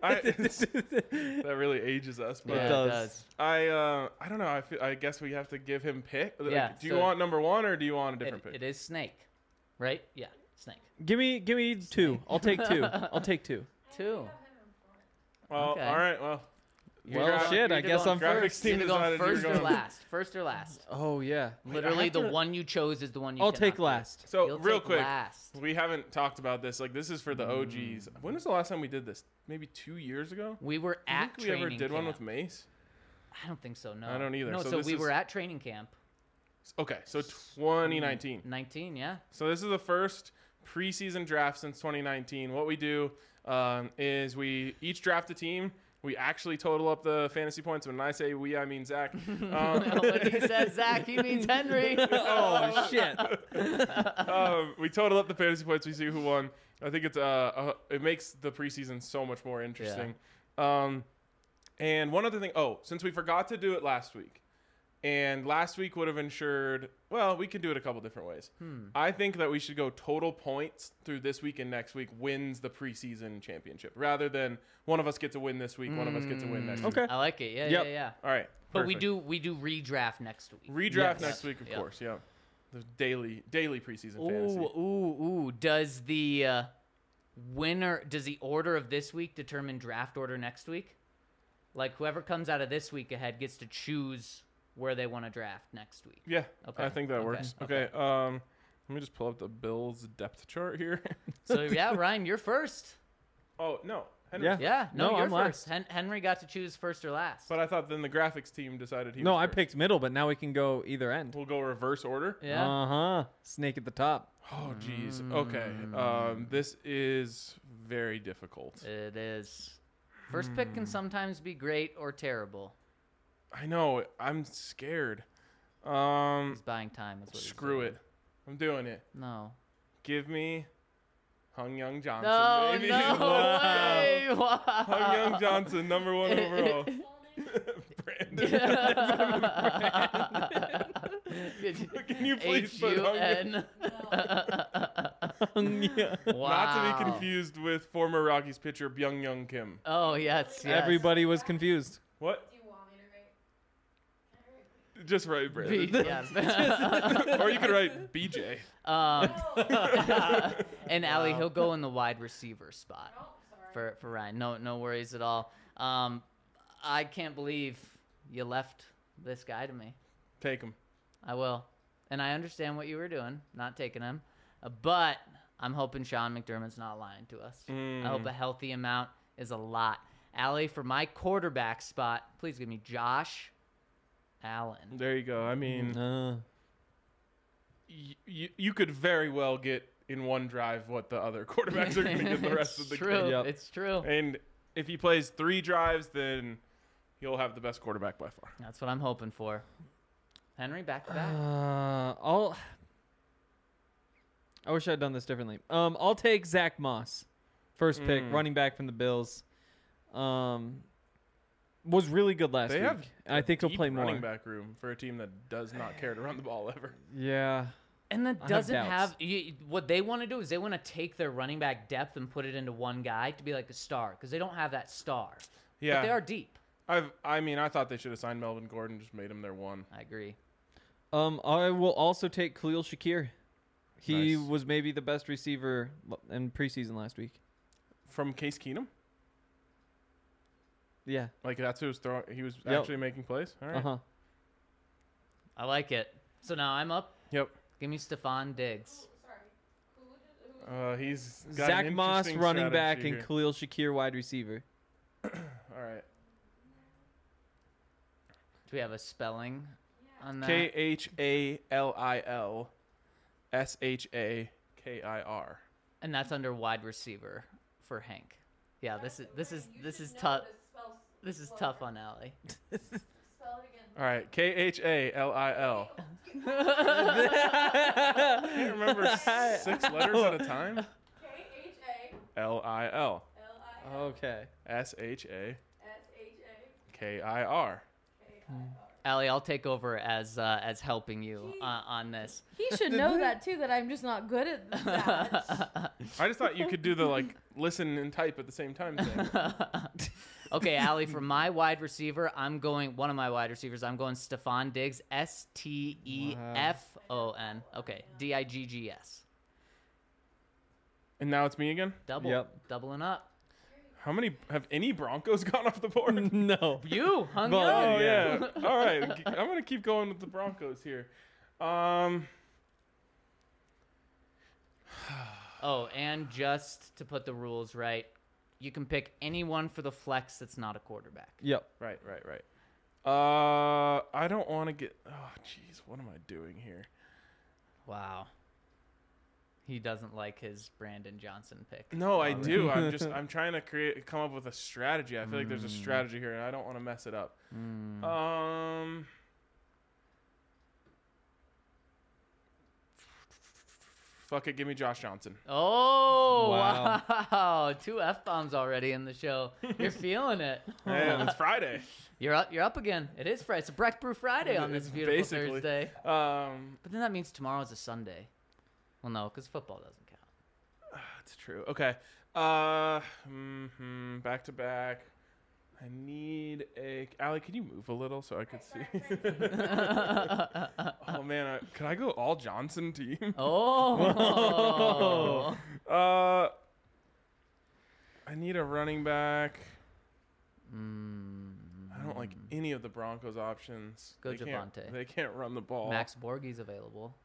That really ages us, but Yeah, it does. does. I don't know. I guess we have to give him pick. Like, Yeah, do you so- want number 1 or do you want a different pick? It is Snake, right? Yeah, Snake. Give me 2. I'll take 2. I'll take 2. 2. Well, Okay. all right. Well, Well, shit. I guess I'm graphics first. team You're going decided you were first or going- last? First or last? Oh yeah. Literally, have the to- one you chose is the one you I'll cannot take do. last. So You'll real take quick, last. we haven't talked about this. Like this is for the OGs. When was the last time we did this? Maybe 2 years ago. We were Do you at think we ever training did one camp. with Mace? I don't think so. No, I don't either. No, So so this we is- were at training camp. Okay, so 2019. 19, yeah. So this is the first preseason draft since 2019. What we do is we each draft a team. We actually total up the fantasy points. When I say we, I mean Zach. When he says Zach, he means Henry. Oh shit. We total up the fantasy points. We see who won. I think it's it makes the preseason so much more interesting. And one other thing. Oh, since we forgot to do it last week, and last week would have ensured. Well, we can do it a couple different ways. I think that we should go total points through this week and next week wins the preseason championship, rather than one of us gets a win this week, one of us gets a win next week. Okay. I like it. Yeah, Yep. yeah. All right. But we perfect. do redraft next week. redraft Yes. next week, of Yep. course. Yeah. The daily preseason fantasy. Ooh. Does the does the order of this week determine draft order next week? Like whoever comes out of this week ahead gets to choose where they want to draft next week. Yeah, Okay, I think that okay, works. okay. Okay, let me just pull up the Bills depth chart here. So yeah, Ryan, you're first. Oh no, Henry. Yeah. Yeah, no, No, you're I'm first. Henry got to choose first or last. But I thought then the graphics team decided he. No, was I first. picked middle, but now we can go either end. We'll go reverse order. yeah. Uh-huh. Snake at the top. Oh jeez. Okay. This is very difficult. It is. First pick can sometimes be great or terrible. I know. I'm scared. He's buying time. Is what he's Screw doing. it. I'm doing it. No. Give me Hung Young Johnson. No, baby. no way. Wow. Hung Young Johnson, number 1 overall. Can you please put Hung Young? H-U-N. Wow. Not to be confused with former Rockies pitcher Byung Young Kim. Oh, yes. Everybody was confused. What? Do you want me to write? Just write B- Brandon. yeah. Or you could write BJ. And Allie, he'll go in the wide receiver spot Oh, sorry. for Ryan. No worries at all. I can't believe you left this guy to me. Take him. I will. and I understand what you were doing, not taking him, but I'm hoping Sean McDermott's not lying to us. I hope a healthy amount is a lot. Allie, for my quarterback spot, please give me Josh Allen. There you go. I mean, Uh, you could very well get in one drive what the other quarterbacks are going to get the rest of the True. game. Yep. It's true. And if he plays 3 drives, then he'll have the best quarterback by far. That's what I'm hoping for. Henry, back to back. I wish I'd done this differently. I'll take Zach Moss, first pick, running back from the Bills. Was really good last They week. have I think he'll Deep play more. running back room for a team that does not care to run the ball ever. Yeah. And that have doesn't doubts. what they want to do is they want to take their running back depth and put it into one guy to be like a star because they don't have that star. Yeah, But they are deep. I thought they should have signed Melvin Gordon, just made him their one. I agree. I will also take Khalil Shakir. He Nice. was maybe the best receiver in preseason last week. From Case Keenum, Yeah. like that's who was throwing. He was Yep. actually making plays. All right. Uh-huh. I like it. So now I'm up. Yep. Give me Stephon Diggs. He's got Zach an Moss interesting running back strategy and here. Khalil Shakir wide receiver. All right. Do we have a spelling on that? KHALILSHAKIR. And that's under wide receiver for Hank. Yeah, this is tough. This is tough on Allie. Spell it again. All right. KHALIL. Can't remember 6 letters at a time. LIL. Okay. SHAKIR. Allie, I'll take over as helping you on this. He should know that too. That I'm just not good at that. I just thought you could do the like listen and type at the same time thing. Okay, Allie, for my wide receiver, I'm going Stephon Diggs, STEFON. Okay, DIGGS. And now it's me again. Doubling up. How many have any Broncos gone off the board? No. You hung Well, young. Oh yeah. All right. I'm gonna keep going with the Broncos here. Oh, and just to put the rules right, you can pick anyone for the flex that's not a quarterback. Yep. Right. I don't want to get. Oh, jeez. What am I doing here? Wow. He doesn't like his Brandon Johnson pick. No, I do. I'm trying to come up with a strategy. I feel like there's a strategy here, and I don't want to mess it up. Fuck it. Give me Josh Johnson. Oh, Wow. wow. 2 F-bombs already in the show. You're feeling it. Man, it's Friday. You're up again. It is Friday. It's a Breck Brew Friday on this It's beautiful basically. Thursday. Um, But then that means tomorrow's a Sunday. Well, no, because football doesn't count. That's true. Okay. Back to back. I need a. Allie, can you move a little so I could see? Oh man, could I go all Johnson team? Oh. I need a running back. I don't like any of the Broncos options. Go They can't- Javonte. They can't run the ball. Max Borghi's available.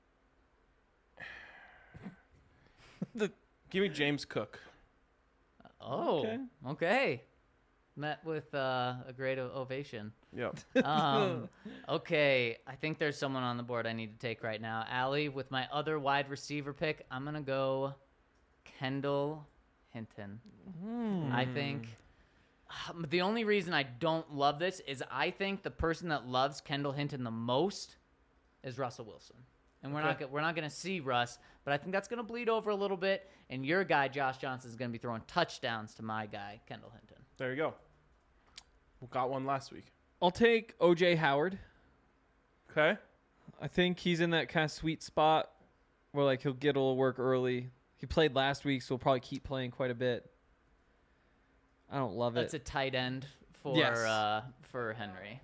Give me James Cook. Oh, okay. Met with a great ovation. Yep. Okay, I think there's someone on the board I need to take right now. Allie, with my other wide receiver pick, I'm going to go Kendall Hinton. I think the only reason I don't love this is I think the person that loves Kendall Hinton the most is Russell Wilson. And we're not going to see Russ, but I think that's going to bleed over a little bit. And your guy, Josh Johnson, is going to be throwing touchdowns to my guy, Kendall Hinton. There you go. We got one last week. I'll take OJ Howard. Okay. I think he's in that kind of sweet spot where like he'll get a little work early. He played last week, so he'll probably keep playing quite a bit. I don't love That's it. a tight end for Yes. for Henry.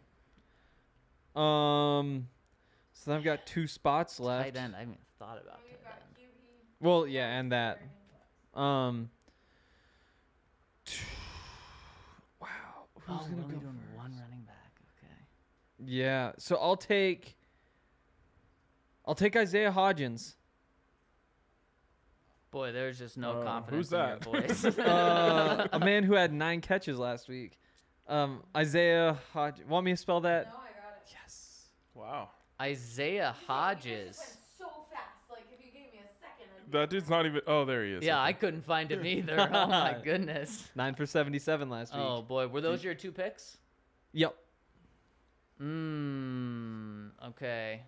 So then I've got 2 spots left. Tight end. I haven't even thought about tight end. Well, yeah, and that. Wow. Who's Oh, gonna we're only go doing first? one running back. Okay. Yeah. So I'll take I'll take Isaiah Hodgins. Boy, there's just no confidence who's in that? your voice. A man who had 9 catches last week. Isaiah Hodgins. Want me to spell that? No, I got it. Yes. Wow. Isaiah Just Hodges. went so fast. Like if you gave me a second. I'd be That dude's not even. Oh, there he is. Yeah, Okay. I couldn't find him either. Oh my goodness. 9 for 77 last week. Oh boy, were those your 2 picks? Yep. Okay.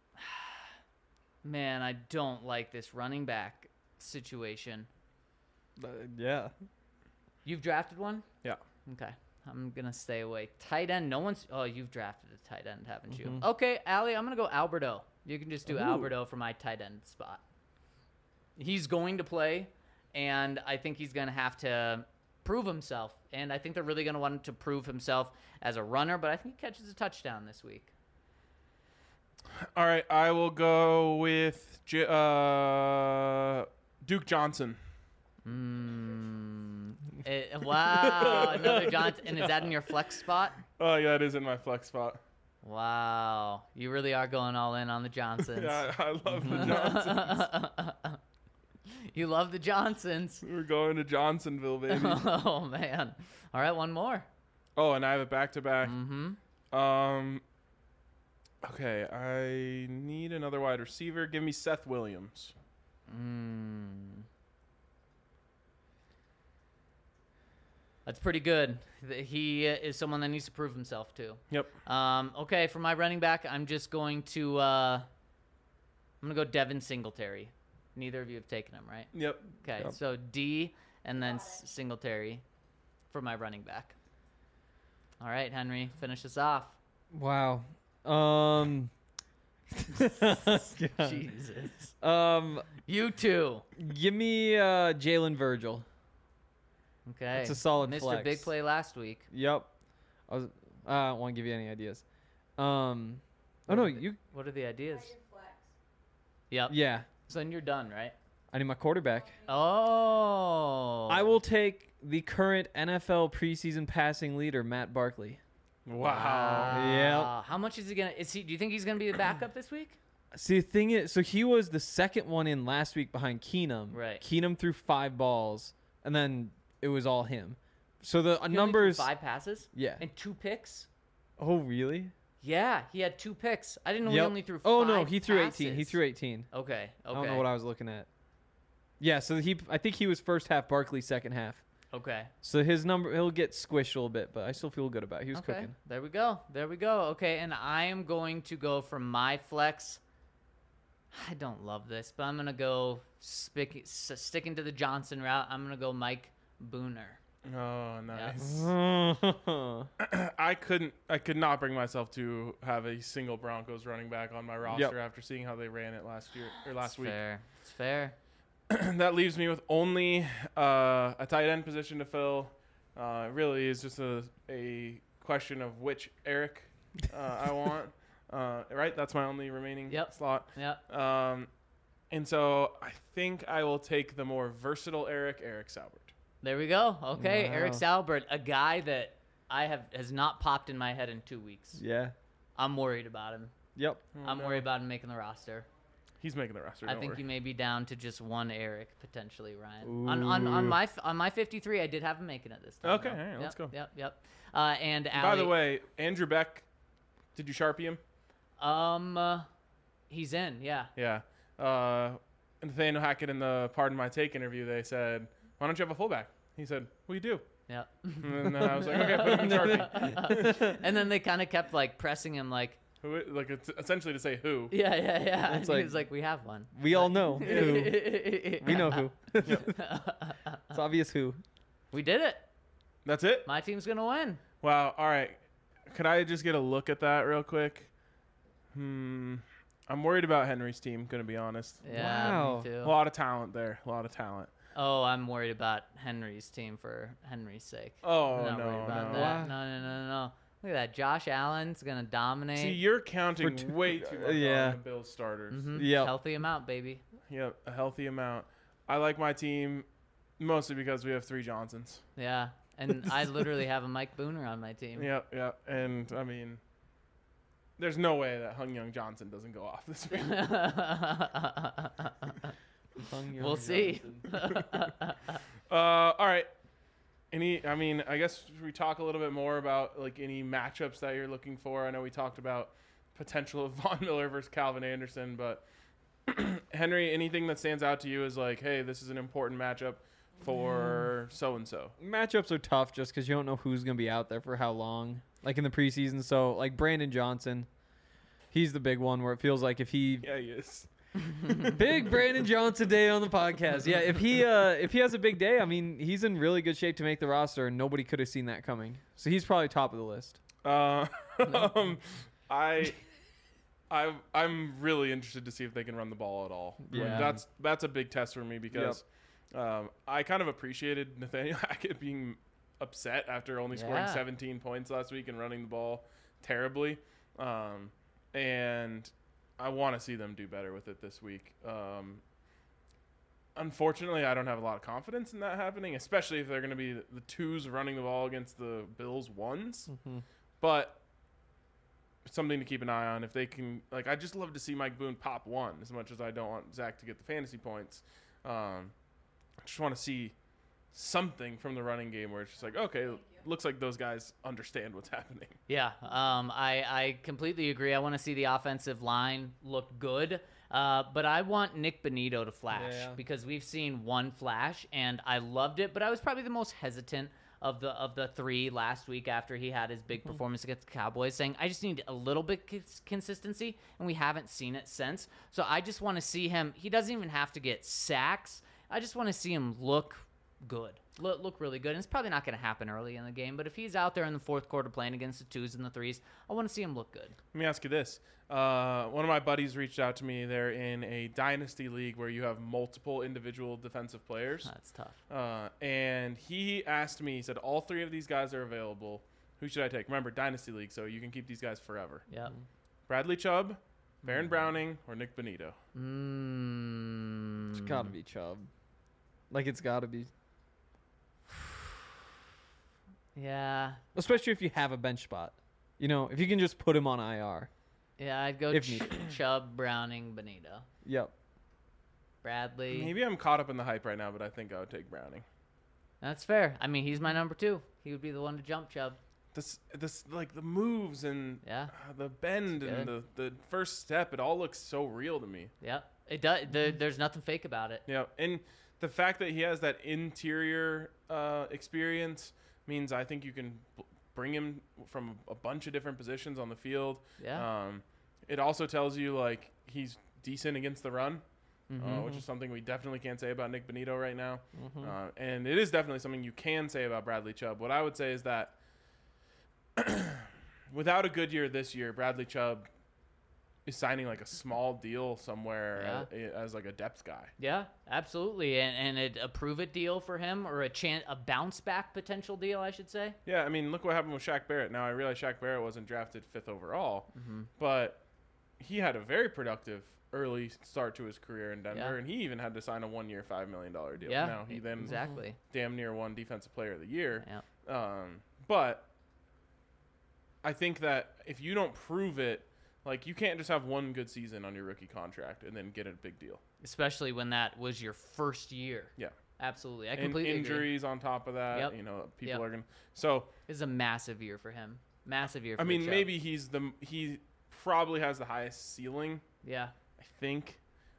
Man, I don't like this running back situation. Yeah. You've drafted one? Yeah. Okay. I'm going to stay away. Tight end, no one's... Oh, you've drafted a tight end, haven't you? Okay, Allie, I'm going to go Alberto. You can just do Alberto for my tight end spot. He's going to play, and I think he's going to have to prove himself. And I think they're really going to want him to prove himself as a runner, but I think he catches a touchdown this week. All right, I will go with Duke Johnson. Wow, another Johnson. And is that in your flex spot? Oh yeah, it is in my flex spot. Wow. You really are going all in on the Johnsons. Yeah, I love the Johnsons. You love the Johnsons. We're going to Johnsonville, baby. Oh, man. All right, one more. Oh, and I have it back to back. Mm-hmm. Okay, I need another wide receiver. Give me Seth Williams. That's pretty good. He is someone that needs to prove himself, too. Yep. Okay, for my running back, I'm just going to I'm going to go Devin Singletary. Neither of you have taken him, right? Yep. Okay, Yep. so D and then Singletary for my running back. All right, Henry, finish us off. Wow. Jesus. Um, You too. give me Jalen Virgil. Okay. It's a solid Mr. flex. Big Play last week. Yep. I don't want to give you any ideas. Oh no, you. What are the ideas? your flex. Yep. Yeah, So then you're done, right? I need my quarterback. Oh. I will take the current NFL preseason passing leader, Matt Barkley. Wow. Yep. How much is he gonna? Do you think he's gonna be the backup this week? See, the thing is, so he was the second one in last week behind Keenum. Right. Keenum threw 5 balls, and then it was all him. So the He only numbers. threw 5 passes. Yeah. And 2 picks. Oh, really? Yeah, he had 2 picks. I didn't know he Yep. only threw 5 Oh no, he threw passes. 18. He threw 18. Okay. Okay. I don't know what I was looking at. Yeah, so I think he was first half, Barkley second half. Okay. So his number, he'll get squished a little bit, but I still feel good about it. He was Okay. cooking. There we go. There we go. Okay, and I am going to go for my flex. I don't love this, but I'm gonna go sticking to the Johnson route. I'm gonna go Mike Booner. Oh, nice. Oh. I could not bring myself to have a single Broncos running back on my roster after seeing how they ran it last week. Fair. It's fair. That leaves me with only a tight end position to fill. It really is just a question of which Eric I want. Right? That's my only remaining slot. Yep. And so I think I will take the more versatile Eric Saubert. There we go. Okay, Wow. Eric Saubert, a guy that has not popped in my head in 2 weeks. Yeah. I'm worried about him. Yep. I'm worried about him making the roster. He's making the roster. I don't think worry. you may be down to just one Eric potentially, Ryan. On my 53, I did have him making it this time. Okay, though. all right, let's go. Yep. And By Allie, the way, Andrew Beck, did you Sharpie him? he's in. Yeah. Yeah. Nathaniel Hackett in the Pardon My Take interview, they said, "Why don't you have a fullback?" He said, "We do." Yep. And then I was like, "Okay, put him in Sharpie." And then they kind of kept like pressing him, like, Who? Like it's essentially to say who. yeah. And he like- was like, we have one. We all know who. We know who. It's obvious who. We did it. That's it. My team's gonna win. Wow. All right. Could I just get a look at that real quick? I'm worried about Henry's team. Gonna be honest. Yeah, Wow. me too. A lot of talent there. A lot of talent. Oh, I'm worried about Henry's team for Henry's sake. Oh I'm not worried no, about no. that. No. Look at that. Josh Allen's gonna dominate. See, you're counting way too much yeah. on the Bills starters. Mhm. Yep. Healthy amount, baby. Yep, a healthy amount. I like my team mostly because we have 3 Johnsons. Yeah. And I literally have a Mike Booner on my team. Yep. And I mean, there's no way that Hung Young Johnson doesn't go off this week. We'll see. All right. I guess we talk a little bit more about like any matchups that you're looking for. I know we talked about potential of Von Miller versus Calvin Anderson, but Henry, anything that stands out to you is like, hey, this is an important matchup for so-and-so. Matchups are tough just because you don't know who's going to be out there for how long, like in the preseason. So, like Brandon Johnson, he's the big one where it feels like if he... Yeah, he is. Big Brandon Johnson day on the podcast. Yeah, if he has a big day, I mean, he's in really good shape to make the roster, and nobody could have seen that coming. So he's probably top of the list. I'm really interested to see if they can run the ball at all. Yeah. Like, that's a big test for me because I kind of appreciated Nathaniel Hackett being upset after only scoring 17 points last week and running the ball terribly. And I want to see them do better with it this week. Unfortunately, I don't have a lot of confidence in that happening, especially if they're going to be the twos running the ball against the Bills ones. Mm-hmm. But something to keep an eye on if they can. Like, I just love to see Mike Boone pop one as much as I don't want Zach to get the fantasy points. I just want to see something from the running game where it's just like, okay, looks like those guys understand what's happening. Yeah, I completely agree. I want to see the offensive line look good, but I want Nick Bonito to flash because we've seen one flash, and I loved it, but I was probably the most hesitant of the three last week after he had his big performance against the Cowboys, saying, I just need a little bit consistency, and we haven't seen it since. So I just want to see him. He doesn't even have to get sacks. I just want to see him look good. Look really good. And it's probably not going to happen early in the game, but if he's out there in the fourth quarter playing against the twos and the threes, I want to see him look good. Let me ask you this. One of my buddies reached out to me. They're in a dynasty league where you have multiple individual defensive players. That's tough. And he asked me, he said, all three of these guys are available. Who should I take? Remember, dynasty league, so you can keep these guys forever. Yeah. Bradley Chubb, Baron Browning, or Nick Bonito? It's got to be Chubb. Like, it's got to be. Yeah. Especially if you have a bench spot. You know, if you can just put him on IR. Yeah, I'd go If needed. Chubb, Browning, Bonito. Yep. Bradley. Maybe I'm caught up in the hype right now, but I think I would take Browning. That's fair. I mean, he's my number 2. He would be the one to jump Chubb. This like the moves and Yeah. the bend It's and the first step, it all looks so real to me. Yep. It does. There's nothing fake about it. Yeah, and the fact that he has that interior experience means I think you can bring him from a bunch of different positions on the field. Yeah. It also tells you like he's decent against the run, which is something we definitely can't say about Nick Bonito right now. And it is definitely something you can say about Bradley Chubb. What I would say is that without a good year this year, Bradley Chubb is signing like a small deal somewhere as like a depth guy. Yeah, absolutely. And a prove-it deal for him, or a bounce-back potential deal, I should say. Yeah, I mean, look what happened with Shaq Barrett. Now, I realize Shaq Barrett wasn't drafted 5th overall, but he had a very productive early start to his career in Denver, and he even had to sign a 1-year, $5 million deal. Yeah, now, he then exactly. damn near won Defensive Player of the Year. Yeah. But I think that if you don't prove it, like, you can't just have one good season on your rookie contract and then get a big deal. Especially when that was your first year. Yeah. Absolutely. I And completely agree. injuries on top of that. Yep. You know, people Yep. are going to. So, This is a massive year for him. Massive year for I mean, Chubb. maybe he probably has the highest ceiling, Yeah. I think.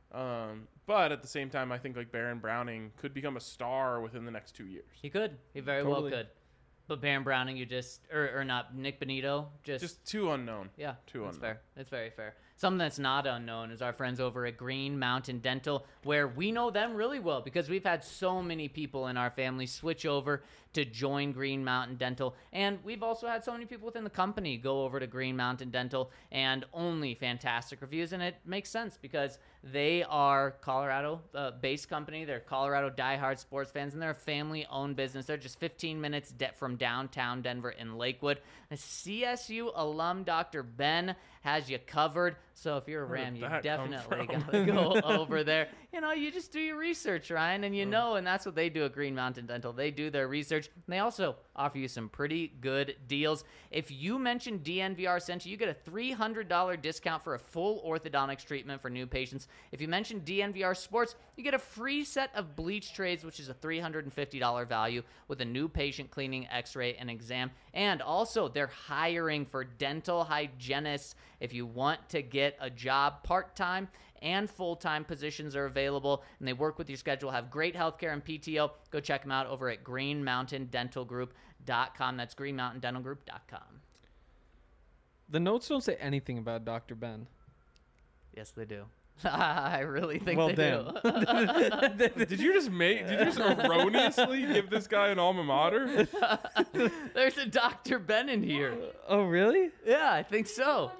But at the same time, I think like Baron Browning could become a star within the next 2 years. He could. He very Totally. well could. But Baron Browning, you just or not Nick Bonito, Just too unknown. yeah, too that's unknown. fair. That's very fair. Something that's not unknown is our friends over at Green Mountain Dental, where we know them really well because we've had so many people in our family switch over to join Green Mountain Dental, and we've also had so many people within the company go over to Green Mountain Dental, and only fantastic reviews. And it makes sense because they are Colorado-based company. They're Colorado diehard sports fans, and they're a family-owned business. They're just 15 minutes from downtown Denver in Lakewood. A CSU alum, Dr. Ben, has you covered. So if you're a Where Ram, did you that come definitely from? got to go over there. You just do your research, Ryan, and and that's what they do at Green Mountain Dental. They do their research, and they also offer you some pretty good deals. If you mention DNVR sent you, you get a $300 discount for a full orthodontics treatment for new patients. If you mention DNVR Sports, you get a free set of bleach trays, which is a $350 value with a new patient cleaning, x-ray, and exam. And also, they're hiring for dental hygienists. If you want to get a job part-time and full-time positions are available, and they work with your schedule, have great healthcare and PTO. Go check them out over at greenmountaindentalgroup.com. That's greenmountaindentalgroup.com. The notes don't say anything about Dr. Ben. Yes, they do. I really think Well, they damn. do. Did you just erroneously give this guy an alma mater? There's a Dr. Ben in here. Oh, really? Yeah, I think so.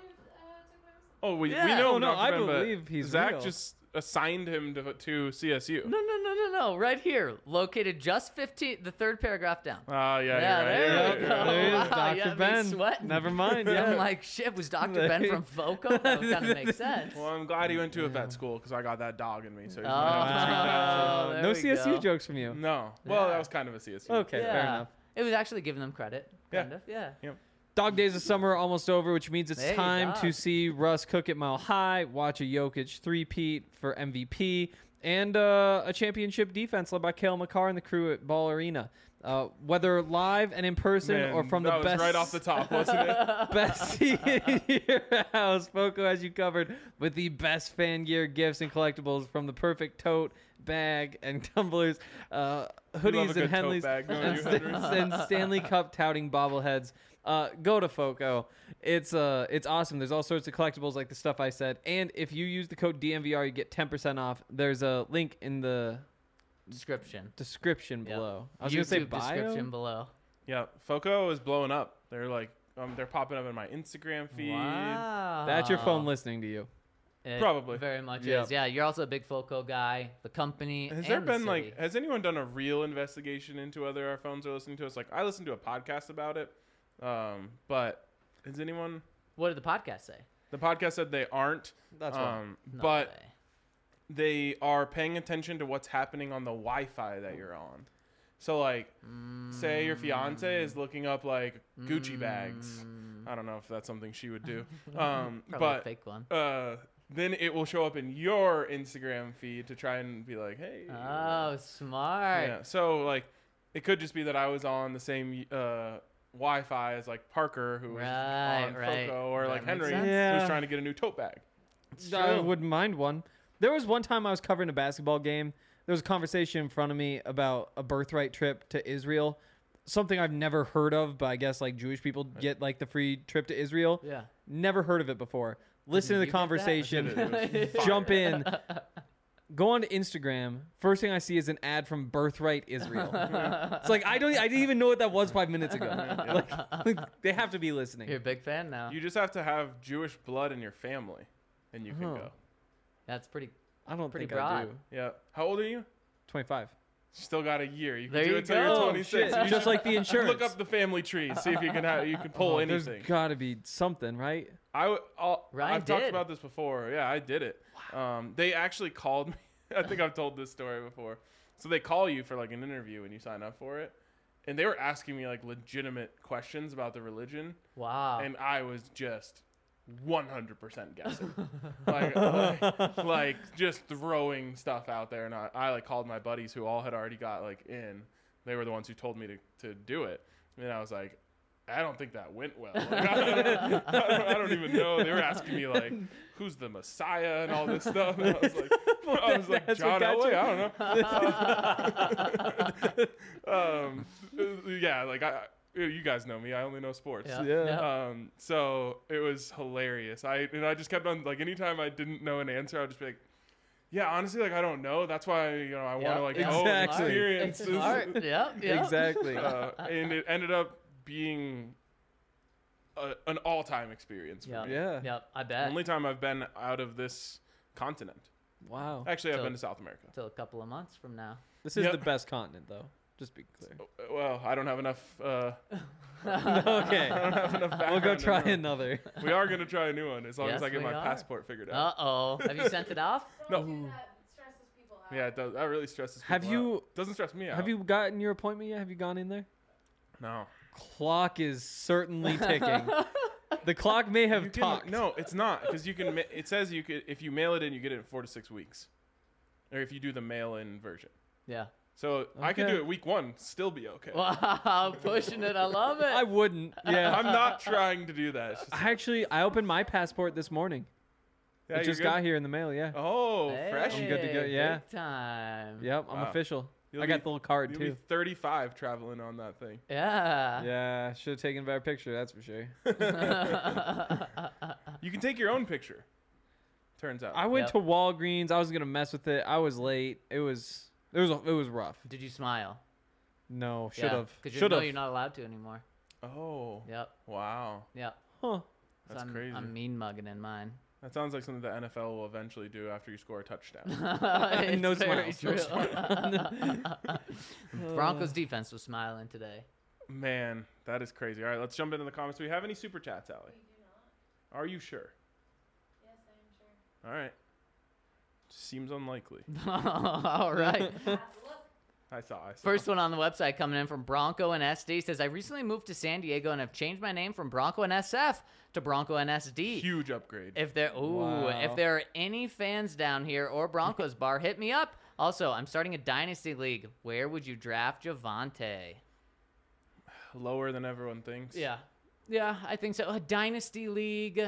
Oh, we Yeah. know. Oh, no, Dr. I Ben, but believe he's Zach real. just assigned him to CSU. No. Right here. Located just the third paragraph down. Yeah, Yeah, you're right. there You're we right, go. you're right. There he is, Wow, Dr. you got me Ben. sweating. Never mind. I'm Yeah. like, shit, was Dr. Ben from FOCO? That would kind of make sense. Well, I'm glad he went to a vet school because I got that dog in me. So he's Oh, gonna have to treat that. there no we CSU go. jokes from you. No. Well, Yeah. that was kind of a CSU. Okay, fair enough. It was actually giving them credit. Yeah. Kind of. Yeah. Dog days of summer are almost over, which means it's Hey, time dog. to see Russ cook at Mile High, watch a Jokic three-peat for MVP, and a championship defense led by Cale McCarr and the crew at Ball Arena. Whether live and in person Man, or from that the was best right off the top, wasn't it? best seat in your house, FOCO has you covered with the best fan gear, gifts, and collectibles from the perfect tote, bag, and tumblers, Love a hoodies, good and tote Henleys, bag, don't and, you, Henry? and Stanley Cup touting bobbleheads. Go to FOCO. It's awesome. There's all sorts of collectibles like the stuff I said. And if you use the code DNVR, you get 10% off. There's a link in the Description. description Yep. below. I was going to say YouTube bio. description below. Yeah, FOCO is blowing up. They're like, they're popping up in my Instagram feed. Wow. That's your phone listening to you. It Probably. very much Yeah. is. Yeah, you're also a big FOCO guy. The company. Has and there the been city. has anyone done a real investigation into whether our phones are listening to us? Like, I listened to a podcast about it, but has anyone? What did the podcast say? The podcast said they aren't. That's wrong. No but way. they are paying attention to what's happening on the Wi-Fi that you're on. So, like, say your fiance is looking up like Gucci bags. I don't know if that's something she would do, Probably but a fake one. then it will show up in your Instagram feed to try and be like, hey. Oh, smart. Yeah. So like, it could just be that I was on the same Wi-Fi as like Parker, who was on Right. FOCO, or That like makes Henry, sense. Yeah. who's trying to get a new tote bag. I wouldn't mind one. There was one time I was covering a basketball game. There was a conversation in front of me about a birthright trip to Israel. Something I've never heard of, but I guess like Jewish people get like the free trip to Israel. Yeah. Never heard of it before. Listen to the You get that? conversation. It was fire. Jump in. Go on to Instagram. First thing I see is an ad from Birthright Israel. It's like I didn't even know what that was 5 minutes ago. Like, they have to be listening. You're a big fan now. You just have to have Jewish blood in your family, and you can Huh. go. That's pretty. I don't Pretty think I broad. do. Yeah. How old are you? 25. Still got a year. You can There do you it till go. you're Oh, 26. shit. You Just should like the insurance. Look up the family tree. See if you can pull There's anything. got to be something, right? Ryan I've talked did. about this before. Yeah, I did it. They actually called me. I think I've told this story before. So they call you for like an interview when you sign up for it, and they were asking me like legitimate questions about the religion, Wow. and I was just 100% guessing, like just throwing stuff out there. And I like called my buddies who all had already got like in. They were the ones who told me to do it, and I was like, I don't think that went well. Like, I don't even know. They were asking me like, who's the Messiah and all this stuff. And I was like, That's John what got Elway. you? I don't know. Yeah, like you guys know me. I only know sports. Yeah. Yeah. So it was hilarious. I just kept on like anytime I didn't know an answer, I'd just be like, yeah, honestly, like I don't know. That's why I want to like Exactly. experience It's this. smart. Yep. Exactly. And it ended up being an all-time experience for Yep. me. Yeah. Yep. I bet. Only time I've been out of this continent. Wow. Actually, I've So- been to South America. Till a couple of months from now. This is Yep. the best continent, though. Just be clear. Well, I don't have enough. Okay. I don't have enough background. We'll go to try know. another. We are gonna try a new one as long as Yes, I get we my are. passport figured out. Uh-oh. Have you sent it off? No. Do that. It stresses people out. Yeah, it does. That really stresses people Have you- out. Doesn't stress me out. Have you gotten your appointment yet? Have you gone in there? No. Clock is certainly ticking. The clock may have You can- talked. No, it's not because you can. It says you could if you mail it in, you get it in 4 to 6 weeks, or if you do the mail-in version. Yeah. So I could Okay. do it week 1, still be okay. Wow, pushing it. I love it. I wouldn't. Yeah. I'm not trying to do that. It's just- I opened my passport this morning. yeah, It you're just good? got here in the mail. Yeah. Oh, fresh. I'm good to go, Hey, yeah. Big time. Yep. I'm Wow. official. You'll I got be- the little card You'll be too. 35 traveling on that thing. Yeah. Yeah. Should have taken a better picture. That's for sure. You can take your own picture. Turns out. I went Yep. to Walgreens. I was gonna mess with it. I was late. It was rough. Did you smile? No. Should have. Because you Should know have. you're not allowed to anymore. Oh. Yep. Wow. Yep. Huh. So That's I'm, crazy. I'm mean mugging in mine. That sounds like something the NFL will eventually do after you score a touchdown. It's No very smiles, no true. Broncos defense was smiling today. Man, that is crazy. All right, let's jump into the comments. Do we have any super chats, Allie? We do not. Are you sure? Yes, I am sure. All right. Seems unlikely. All right. Have a look. I saw. First one on the website coming in from Bronco and SD says, I recently moved to San Diego and have changed my name from Bronco and SF to Bronco and SD. Huge upgrade. If there Wow. if there are any fans down here or Broncos bar, hit me up. Also, I'm starting a dynasty league. Where would you draft Javante? Lower than everyone thinks. Yeah, I think so. A dynasty league.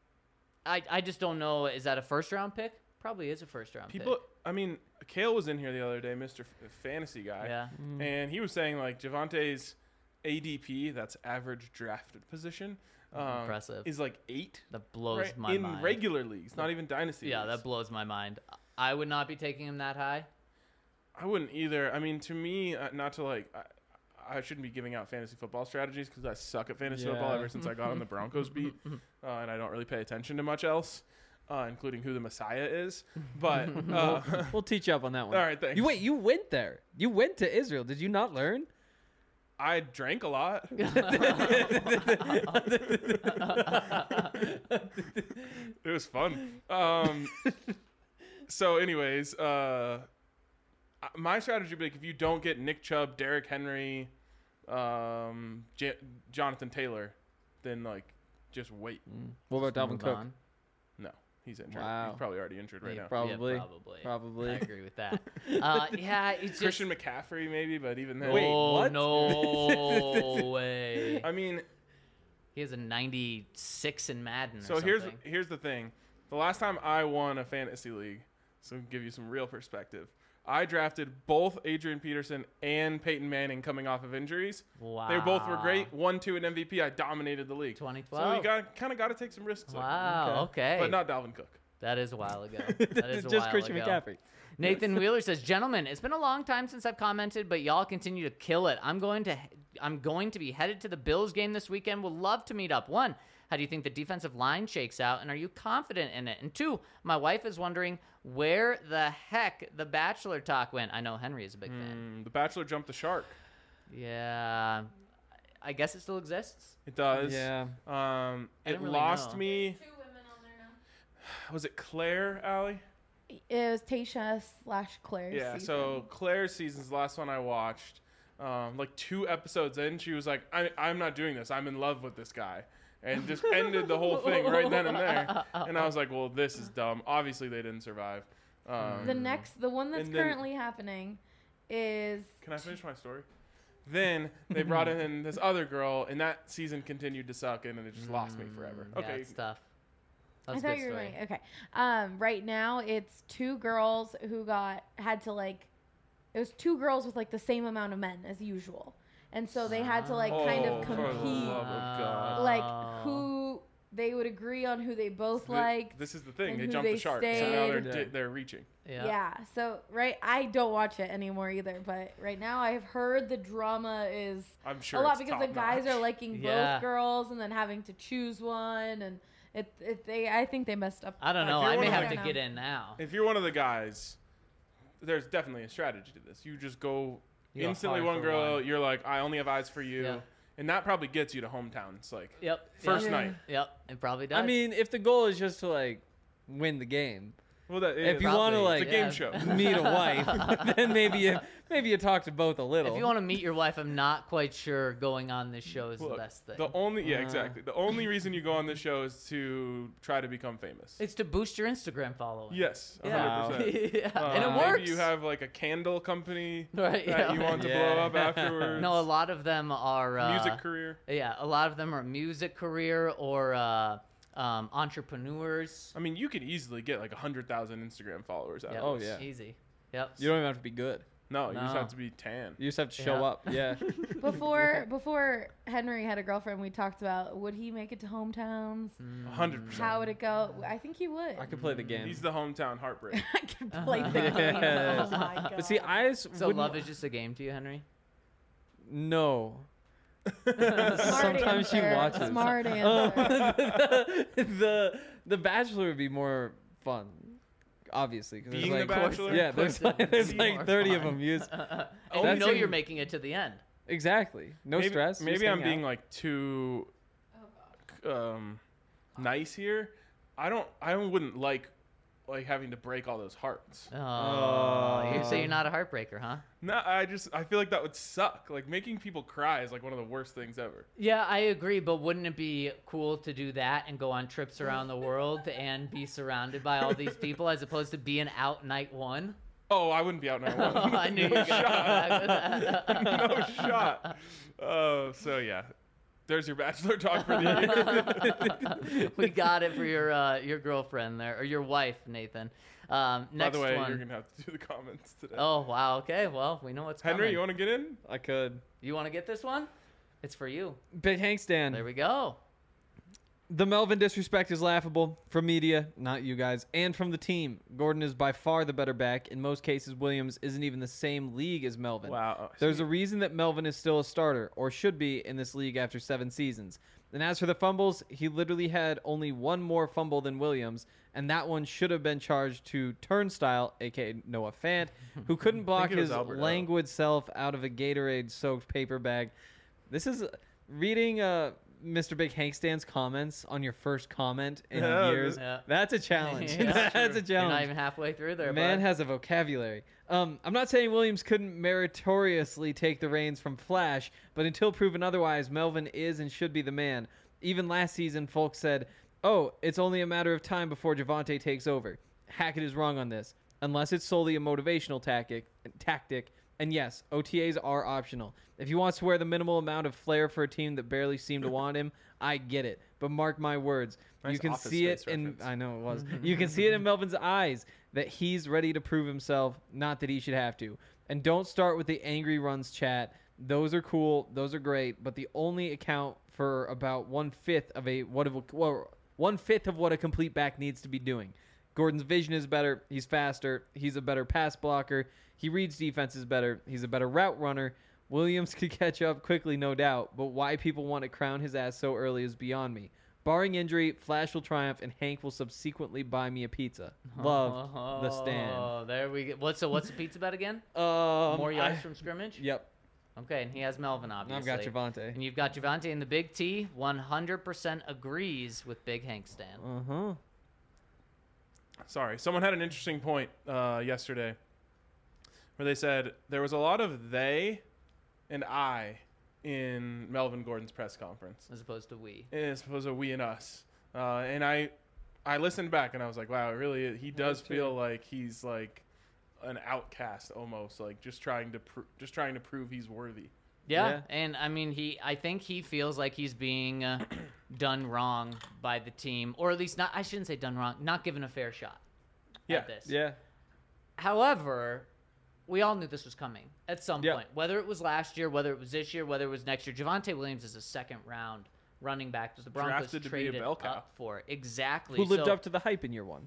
I just don't know. Is that a first round pick? Probably is a first round People, pick. I mean, Kale was in here the other day, Mr. Fantasy guy. Yeah. And he was saying, like, Javante's ADP, that's average drafted position, Impressive. is like 8 That blows right, my in mind. regular leagues, not even dynasty Yeah, leagues. that blows my mind. I would not be taking him that high. I wouldn't either. I mean, to me, not to like, I shouldn't be giving out fantasy football strategies because I suck at fantasy football Yeah. ever since I got on the Broncos beat, and I don't really pay attention to much else, including who the Messiah is. But We'll teach you up on that one. all right, thanks. You went there. You went to Israel. Did you not learn? I drank a lot. It was fun. So, anyways, my strategy would be like, if you don't get Nick Chubb, Derrick Henry, Jonathan Taylor, then like just wait. What about Dalvin Move Cook? on. No, he's injured. Wow. He's probably already injured right Yeah, now. Probably. probably. Probably. I agree with that. Yeah, it's just. Christian McCaffrey, maybe, but even then. Wait, oh, what? no way. I mean, He has a 96 in Madden. so or something. here's the thing. The last time I won a fantasy league, so to give you some real perspective, I drafted both Adrian Peterson and Peyton Manning coming off of injuries. Wow. They both were great. 1-2 in MVP. I dominated the league. 2012. So you kind of got to take some risks. like that. Wow. Okay. But not Dalvin Cook. That is a while ago. That is a Just while Christian ago. McCaffrey. Nathan Wheeler says, "Gentlemen, it's been a long time since I've commented, but y'all continue to kill it. I'm going to be headed to the Bills game this weekend. Would love to meet up. 1, how do you think the defensive line shakes out, and are you confident in it? And 2, my wife is wondering where the heck the Bachelor talk went. I know Henry is a big fan. The Bachelor jumped the shark. Yeah, I guess it still exists. It does. Yeah. I It don't really lost know. me. 2 women on there now. Was it Claire, Allie? It was Tasha/Claire's Yeah. season. So Claire's season's the last one I watched. Like 2 episodes in, she was like, I'm not doing this. I'm in love with this guy. And just ended the whole thing right then and there. And I was like, well, this is dumb. Obviously, they didn't survive. the one that's And then- currently happening is Can I finish my story? Then they brought in this other girl, and that season continued to suck, and it just lost me forever. Yeah, Okay. it's tough. I That's a thought good you were story. right. Okay. Right now it's 2 girls who had to like, it was 2 girls with like the same amount of men as usual, and so they had to like kind of For the compete, love of God. like who they would agree on who they both liked. This is the thing. and They who jumped they the shark, so now stayed. they're reaching. Yeah. So I don't watch it anymore either, but right now I've heard the drama is I'm sure a lot it's because the guys top-notch. are liking Yeah. both girls and then having to choose one, and I think they messed up. I don't know. If you're I may one of have the- to know. get in now. If you're one of the guys, there's definitely a strategy to this. You just go You go instantly hard one for girl, one. you're like, I only have eyes for you. Yeah. And that probably gets you to hometowns. Like, Yep. First yep. night. Yep. It probably does. I mean, if the goal is just to like win the game, well, that if you is- want to Probably. like it's a game Yeah. show. meet a wife, then maybe you talk to both a little. if you want to meet your wife, I'm not quite sure going on this show is the Look, best thing. the only exactly. The only reason you go on this show is to try to become famous. It's to boost your Instagram following. Yes, 100%. Yeah. And it Maybe works. you have like a candle company Right, that yeah. you want to Yeah. blow up afterwards. No, a lot of them are music career. Yeah, a lot of them are music career or entrepreneurs. I mean, you could easily get like 100,000 Instagram followers out Yep. of Oh, this. yeah. Easy. Yep. You don't even have to be good. No, you just No. have to be tan. You just have to show Yeah. up. Yeah. Before Henry had a girlfriend, we talked about would he make it to hometowns? 100%. How would it go? I think he would. I could play the game. He's the hometown heartbreak. I could play the game. Yes. Oh my god. But see, I just So wouldn't- love is just a game to you, Henry? No. Smart Sometimes she answer. watches. Smart answer. the Bachelor would be more fun, obviously. 'cause there's Being the like, Bachelor? yeah, Of course there's it would there's be like more 30 of fun. them. Use And That's you know in- you're making it to the end. exactly. No maybe, stress. just Maybe I'm hang being out. like too nice here. I wouldn't like having to break all those hearts. Oh, you say you're not a heartbreaker, huh? No, I feel like that would suck. Like making people cry is like one of the worst things ever. Yeah, I agree, but wouldn't it be cool to do that and go on trips around the world and be surrounded by all these people as opposed to being out night one? Oh, I wouldn't be out night one. Oh, I knew you were going to come back with that. No shot. Oh, so yeah. There's your Bachelor talk for the year. We got it for your girlfriend there, or your wife, Nathan. Next By the way, one. you're gonna have to do the comments today. Oh, wow. Okay, well, we know what's coming. Henry, you want to get in? I could. You want to get this one? It's for you. Big Hank Stan. There we go. The Melvin disrespect is laughable from media, not you guys, and from the team. Gordon is by far the better back. In most cases, Williams isn't even the same league as Melvin. Wow. There's a reason that Melvin is still a starter, or should be, in this league after 7 seasons. And as for the fumbles, he literally had only one more fumble than Williams, and that one should have been charged to Turnstile, aka Noah Fant, who couldn't block it was his Alberto. languid self out of a Gatorade-soaked paper bag. This is reading Mr. Big Hank Stan's comments on your first comment in Yeah, years. yeah. That's a challenge. Yeah. That's a You're not challenge. even halfway through there, Man bud. has a vocabulary. I'm not saying Williams couldn't meritoriously take the reins from Flash, but until proven otherwise, Melvin is and should be the man. Even last season, folks said, "Oh, it's only a matter of time before Javante takes over." Hackett is wrong on this, unless it's solely a motivational tactic. And yes, OTAs are optional. If he wants to wear the minimal amount of flair for a team that barely seemed to want him, I get it. But mark my words, Nice you can Office see it Space in. reference. I know it was. You can see it in Melvin's eyes that he's ready to prove himself, not that he should have to. And don't start with the angry runs chat. Those are cool. Those are great. But the only account for about 1/5 of what a complete back needs to be doing. Gordon's vision is better. He's faster. He's a better pass blocker. He reads defenses better. He's a better route runner. Williams could catch up quickly, no doubt, but why people want to crown his ass so early is beyond me. Barring injury, Flash will triumph, and Hank will subsequently buy me a pizza. Love the stand. Oh, there we go. What's the pizza bet again? Um, More yards from scrimmage? Yep. Okay, and he has Melvin, obviously. I've got Javante. And you've got Javante, and the Big T 100% agrees with Big Hank Stan. Uh-huh. Sorry, someone had an interesting point yesterday where they said there was a lot of they and I in Melvin Gordon's press conference, As opposed to we. as opposed to we and us. And I listened back and I was like, wow, really, he does feel like he's like an outcast almost, like just trying to prove he's worthy. Yeah, Yeah. and I mean, I think he feels like he's being done wrong by the team, or at least not. I shouldn't say done wrong, not given a fair shot Yeah, at this. Yeah. However, we all knew this was coming at some Yeah. point, whether it was last year, whether it was this year, whether it was next year. Javante Williams is a second round running back that the Broncos Drafted to be a traded bell cow. up for. Exactly. Who lived So- up to the hype in year 1?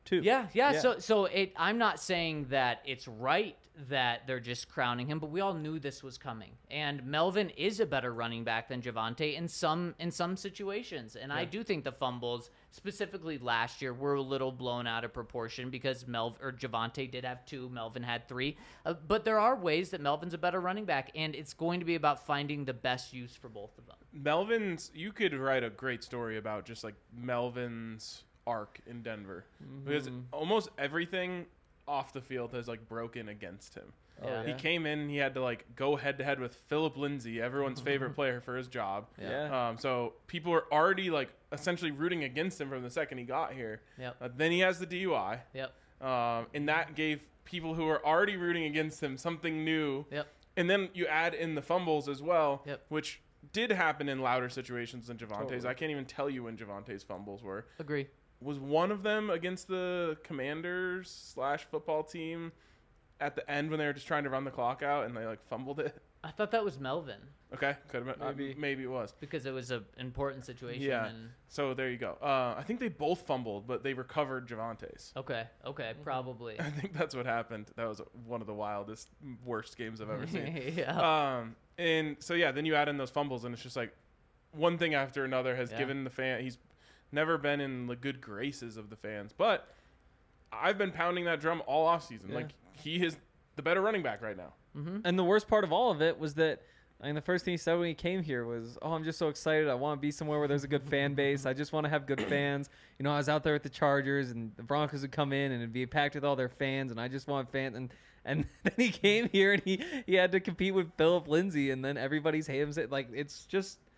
too. Yeah. So I'm not saying that it's right that they're just crowning him, but we all knew this was coming. And Melvin is a better running back than Javonte in some situations. And I do think the fumbles, specifically last year, were a little blown out of proportion because Javonte did have 2, Melvin had 3. But there are ways that Melvin's a better running back, and it's going to be about finding the best use for both of them. Melvin's, you could write a great story about just like Melvin's arc in Denver because almost everything off the field has like broken against him. Yeah. He came in, he had to like go head to head with Philip Lindsay, everyone's favorite player, for his job. Yeah. So people were already like essentially rooting against him from the second he got here. Yep. Then he has the DUI. Yep. And that gave people who were already rooting against him something new. Yep. And then you add in the fumbles as well, Yep. which did happen in louder situations than Javonte's. Totally. I can't even tell you when Javonte's fumbles were. Agree. Was one of them against the Commanders / football team at the end when they were just trying to run the clock out and they like fumbled it? I thought that was Melvin Okay, could have been. Maybe it was. because it was an important situation. Yeah. And So there you go. I think they both fumbled, but they recovered Javonte's. Okay, probably. I think that's what happened. That was one of the wildest, worst games I've ever seen. Yeah. And so yeah, then you add in those fumbles, and it's just like one thing after another has Yeah. given the fan. He's never been in the good graces of the fans, but I've been pounding that drum all offseason. Yeah. Like he is the better running back right now. And the worst part of all of it was that, I mean, the first thing he said when he came here was, "Oh, I'm just so excited. I want to be somewhere where there's a good fan base. I just want to have good fans. You know, I was out there with the Chargers, and the Broncos would come in, and it'd be packed with all their fans, and I just want fans." And then he came here, and he had to compete with Philip Lindsay, and then everybody's hating him. Like, it's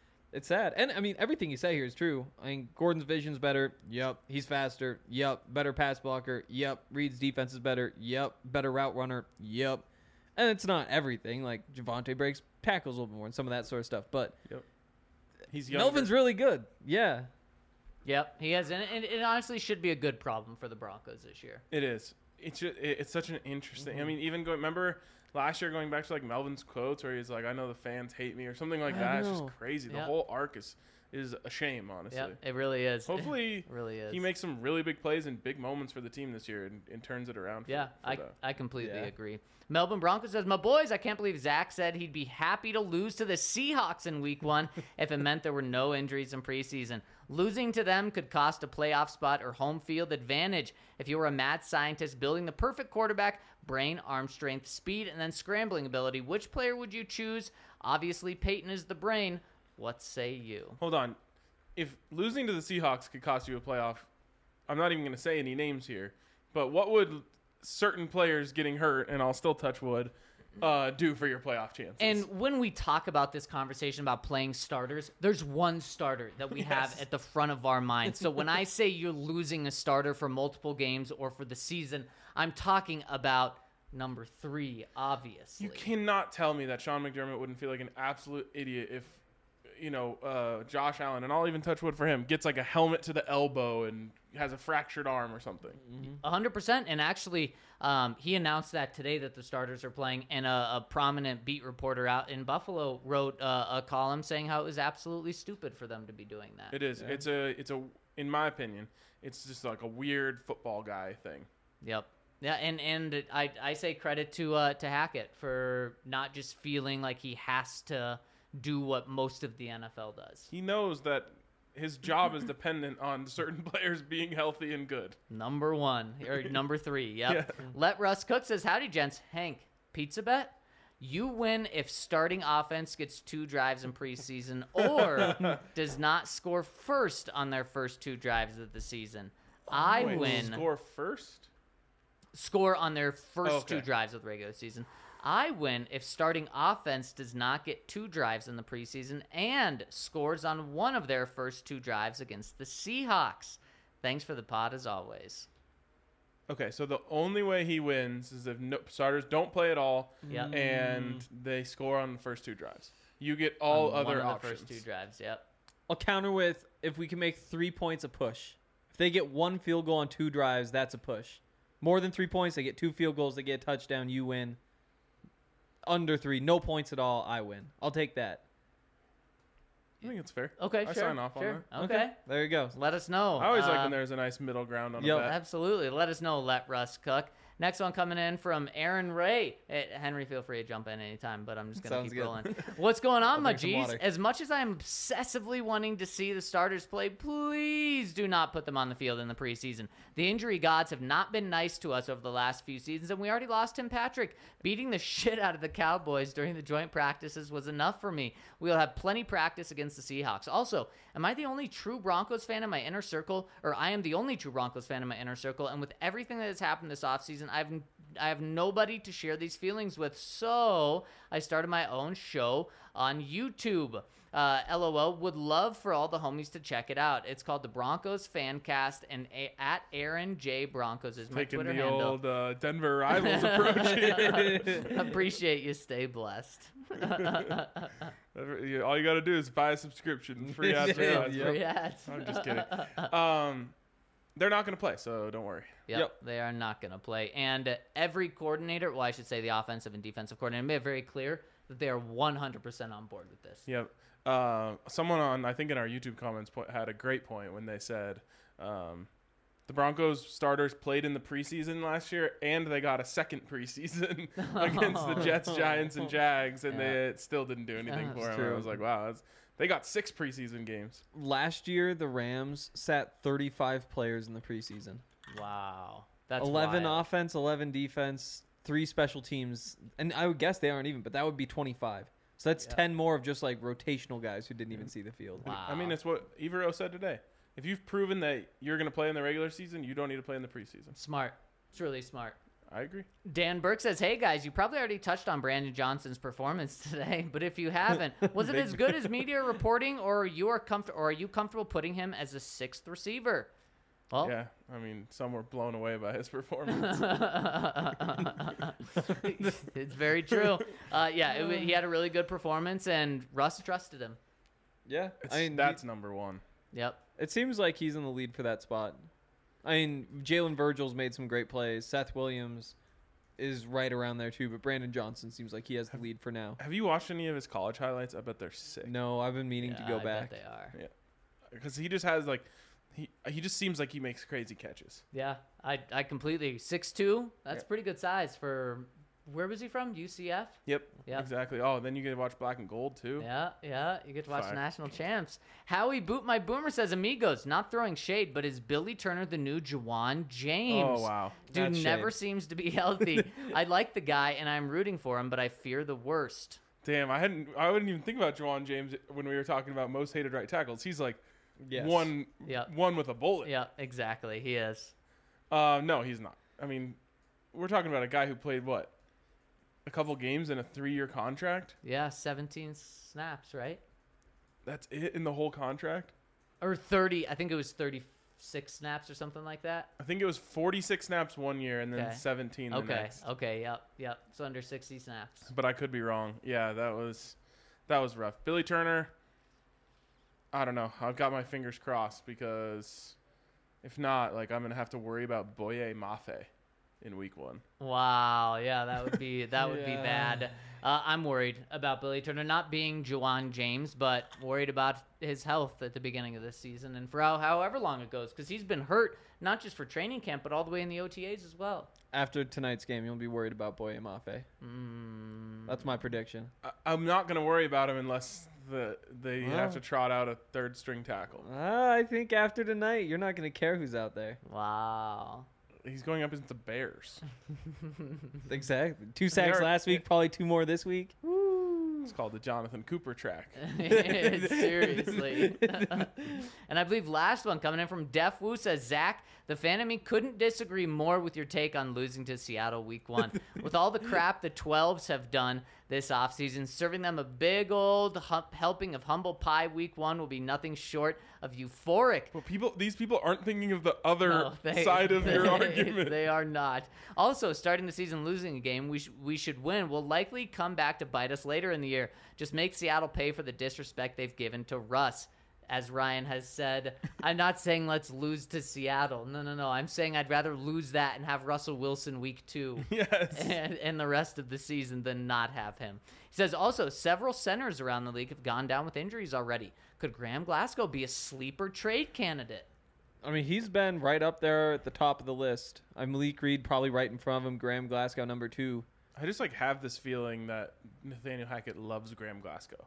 sad. And, I mean, everything you say here is true. I mean, Gordon's vision's better. Yep. He's faster. Yep. Better pass blocker. Yep. Reed's defense is better. Yep. Better route runner. Yep. And it's not everything. Like, Javonte breaks tackles a little bit more and some of that sort of stuff. But He's younger. Melvin's really good. Yeah. Yep, he has, and it honestly should be a good problem for the Broncos this year. It is. It's such an interesting. I mean, even remember last year going back to like Melvin's quotes where he's like, "I know the fans hate me" or something like that. It's just crazy. The Yeah. whole arc is a shame, honestly. Yep, it really is. Hopefully, It really is. he makes some really big plays and big moments for the team this year and turns it around. Yeah, for I completely Yeah. agree. Melbourne Broncos says, "My boys, I can't believe Zach said he'd be happy to lose to the Seahawks in week 1 if it meant there were no injuries in preseason. Losing to them could cost a playoff spot or home field advantage. If you were a mad scientist building the perfect quarterback, brain, arm strength, speed, and then scrambling ability, which player would you choose? Obviously, Peyton is the brain. What say you?" Hold on. If losing to the Seahawks could cost you a playoff, I'm not even going to say any names here, but what would certain players getting hurt, and I'll still touch wood, do for your playoff chances? And when we talk about this conversation about playing starters, there's one starter that we have at the front of our mind. So when I say you're losing a starter for multiple games or for the season, I'm talking about number 3, obviously. You cannot tell me that Sean McDermott wouldn't feel like an absolute idiot if, Josh Allen, and I'll even touch wood for him, gets like a helmet to the elbow and has a fractured arm or something. 100%. And actually, he announced that today that the starters are playing, and a prominent beat reporter out in Buffalo wrote a column saying how it was absolutely stupid for them to be doing that. It is. It's a. In my opinion, it's just like a weird football guy thing. Yep. Yeah, and I say credit to Hackett for not just feeling like he has to do what most of the NFL does. He knows that his job is dependent on certain players being healthy and good. Number 1 or number 3. Yep. Yeah. Let Russ Cook says, "Howdy, gents. Hank, pizza bet? You win if starting offense gets 2 drives in preseason or does not score first on their first 2 drives of the season. I Wait, win. Score first? Score on their first Okay. 2 drives of the regular season. I win if starting offense does not get 2 drives in the preseason and scores on one of their first 2 drives against the Seahawks. Thanks for the pod as always." Okay, so the only way he wins is if starters don't play at all Yep. and they score on the first 2 drives. You get all On other one of options. the first 2 drives. Yep. I'll counter with, if we can make 3 points a push. If they get 1 field goal on 2 drives, that's a push. More than 3 points, they get 2 field goals, they get a touchdown, you win. Under 3, no points at all, I win. I'll take that. I think it's fair. Okay, I sure. sign off on sure. that. Okay. There you go. Let us know. I always like when there's a nice middle ground on Yep. a bet. Absolutely. Let us know. Let Russ cook. Next one coming in from Aaron Ray. Henry, feel free to jump in anytime, but I'm just going to Sounds keep good. rolling. What's going on, my bring some G's? water. As much as I'm obsessively wanting to see the starters play, please do not put them on the field in the preseason. The injury gods have not been nice to us over the last few seasons, and we already lost Tim Patrick. Beating the shit out of the Cowboys during the joint practices was enough for me. We'll have plenty practice against the Seahawks. Also, am I the only true Broncos fan in my inner circle, or I am the only true Broncos fan in my inner circle, and with everything that has happened this offseason, I have nobody to share these feelings with, so I started my own show on YouTube. LOL, would love for all the homies to check it out. It's called the Broncos Fancast, and at Aaron J Broncos is my Taking Twitter the handle. old Denver Rivals approach. Appreciate you. Stay blessed. All you got to do is buy a subscription. Free ads. Free ads. Yep. Free ads. I'm just kidding. They're not going to play, so don't worry. Yep, they are not going to play. And every coordinator, well, I should say the offensive and defensive coordinator, made it very clear that they are 100% on board with this. Yep. Someone on, I think in our YouTube comments, had a great point when they said the Broncos starters played in the preseason last year, and they got a second preseason against the Jets, Giants, and Jags, and they still didn't do anything for That's them. true. I was like, wow, they got 6 preseason games. Last year, the Rams sat 35 players in the preseason. Wow. That's 11 wild. offense, 11 defense, 3 special teams. And I would guess they aren't even, but that would be 25. So that's 10 more of just like rotational guys who didn't even see the field. Wow. I mean, it's what Evero said today. If you've proven that you're going to play in the regular season, you don't need to play in the preseason. Smart. It's really smart. I agree. Dan Burke says, hey guys, you probably already touched on Brandon Johnson's performance today, but if you haven't, was it as good as media reporting, or are you comfortable putting him as a 6th receiver? Well, Yeah, I mean, some were blown away by his performance. it's very true. He had a really good performance, and Russ trusted him. Yeah. That's number one. Yep. It seems like he's in the lead for that spot. I mean, Jalen Virgil's made some great plays. Seth Williams is right around there too, but Brandon Johnson seems like he has the lead for now. Have you watched any of his college highlights? I bet they're sick. No, I've been meaning to go I back. bet they are. Yeah, because he just has like he just seems like he makes crazy catches. Yeah, I completely 6'2". That's Yeah. pretty good size for. Where was he from? UCF. Yep. Yep. Exactly. Oh, then you get to watch Black and Gold too. Yeah, you get to watch Fire. national champs. Howie Boot My Boomer says, amigos, not throwing shade, but is Billy Turner the new Juwan James? Oh wow. Dude That's never shade. seems to be healthy. I like the guy and I'm rooting for him, but I fear the worst. Damn, I wouldn't even think about Juwan James when we were talking about most hated right tackles. He's like Yes. one Yep. with a bullet. Yeah, exactly. He is. No, he's not. I mean, we're talking about a guy who played what? A couple games in a 3-year contract? Yeah, 17 snaps, right? That's it in the whole contract? Or 30. I think it was 36 snaps or something like that. I think it was 46 snaps 1 year and then Okay. 17 the Okay. next. Okay. Yep. So under 60 snaps. But I could be wrong. Yeah, that was rough. Billy Turner, I don't know. I've got my fingers crossed because if not, like I'm gonna have to worry about Boye Mafe in week 1. Wow, yeah, that would be be Yeah. bad. I'm worried about Billy Turner not being Juwan James, but worried about his health at the beginning of this season and for however long it goes, because he's been hurt not just for training camp but all the way in the OTAs as well. After tonight's game, you'll be worried about Boye Mafe. That's my prediction. I'm not gonna worry about him unless they have to trot out a 3rd string tackle. I think after tonight, you're not going to care who's out there. Wow. He's going up against the Bears. Exactly. 2 sacks are- last week, probably 2 more this week. It's called the Jonathan Cooper track. Seriously. And I believe last one coming in from Def Wu says, Zach, the fan of me couldn't disagree more with your take on losing to Seattle week 1. With all the crap the 12s have done this offseason, serving them a big old helping of humble pie week 1 will be nothing short of euphoric. But these people aren't thinking of the other No, side of your argument. They are not. Also, starting the season losing a game we should win will likely come back to bite us later in the year. Just make Seattle pay for the disrespect they've given to Russ. as Ryan has said. I'm not saying let's lose to Seattle. No. I'm saying I'd rather lose that and have Russell Wilson week 2 Yes. and the rest of the season than not have him. He says also several centers around the league have gone down with injuries already. Could Graham Glasgow be a sleeper trade candidate? I mean, he's been right up there at the top of the list. Malik Reed probably right in front of him. Graham Glasgow number 2. I just like have this feeling that Nathaniel Hackett loves Graham Glasgow.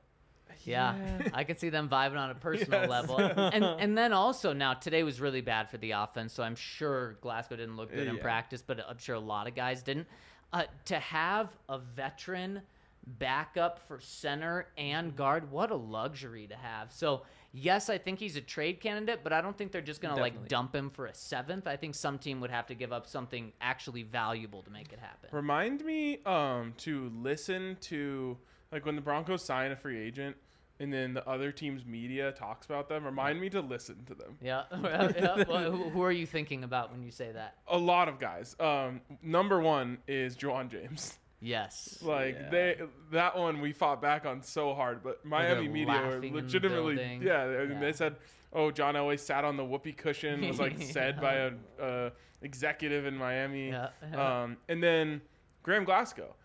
Yeah, I can see them vibing on a personal Yes. level. And then also now today was really bad for the offense, so I'm sure Glasgow didn't look good in Yeah. practice, but I'm sure a lot of guys didn't. To have a veteran backup for center and guard, what a luxury to have. So yes, I think he's a trade candidate, but I don't think they're just gonna like Definitely. dump him for a 7th. I think some team would have to give up something actually valuable to make it happen. Remind me to listen to, like, when the Broncos sign a free agent and then the other team's media talks about them, remind me to listen to them. Yeah. Yeah. Well, who are you thinking about when you say that? A lot of guys. Number 1 is Juwan James. Yes. Like, Yeah. that one we fought back on so hard, but Miami they're media were laughing in the legitimately, building. yeah, Yeah. they said, oh, John Elway sat on the whoopee cushion, was like said by a executive in Miami. Yeah. And then Graham Glasgow.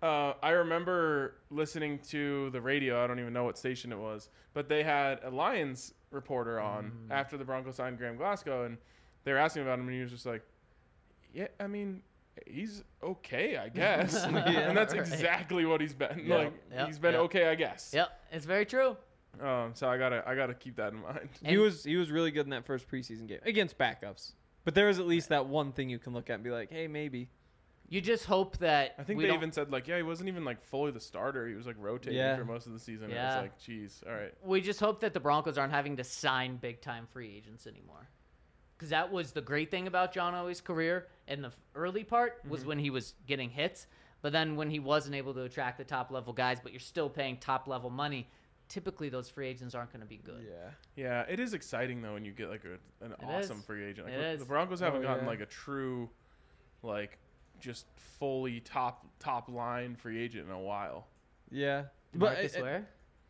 I remember listening to the radio. I don't even know what station it was, but they had a Lions reporter on after the Broncos signed Graham Glasgow, and they were asking about him, and he was just like, yeah, I mean, he's okay, I guess. And that's right. exactly what he's been. Yeah. Like, Yep. he's been Yep. okay, I guess. Yep, it's very true. So I gotta keep that in mind. He was really good in that first preseason game against backups. But there was at least that one thing you can look at and be like, hey, maybe. You just hope that I think we they don't- even said, like, yeah, he wasn't even like fully the starter. He was like rotating Yeah. for most of the season. Yeah. It was like, geez, all right. we just hope that the Broncos aren't having to sign big time free agents anymore. Because that was the great thing about John Elway's career in the early part was when he was getting hits, but then when he wasn't able to attract the top level guys, but you're still paying top level money, typically those free agents aren't going to be good. Yeah. Yeah, it is exciting though when you get like an awesome is. free agent. Like, It is. the Broncos haven't Oh, gotten yeah. like a true, like, just fully top line free agent in a while. Yeah. Marcus Ware?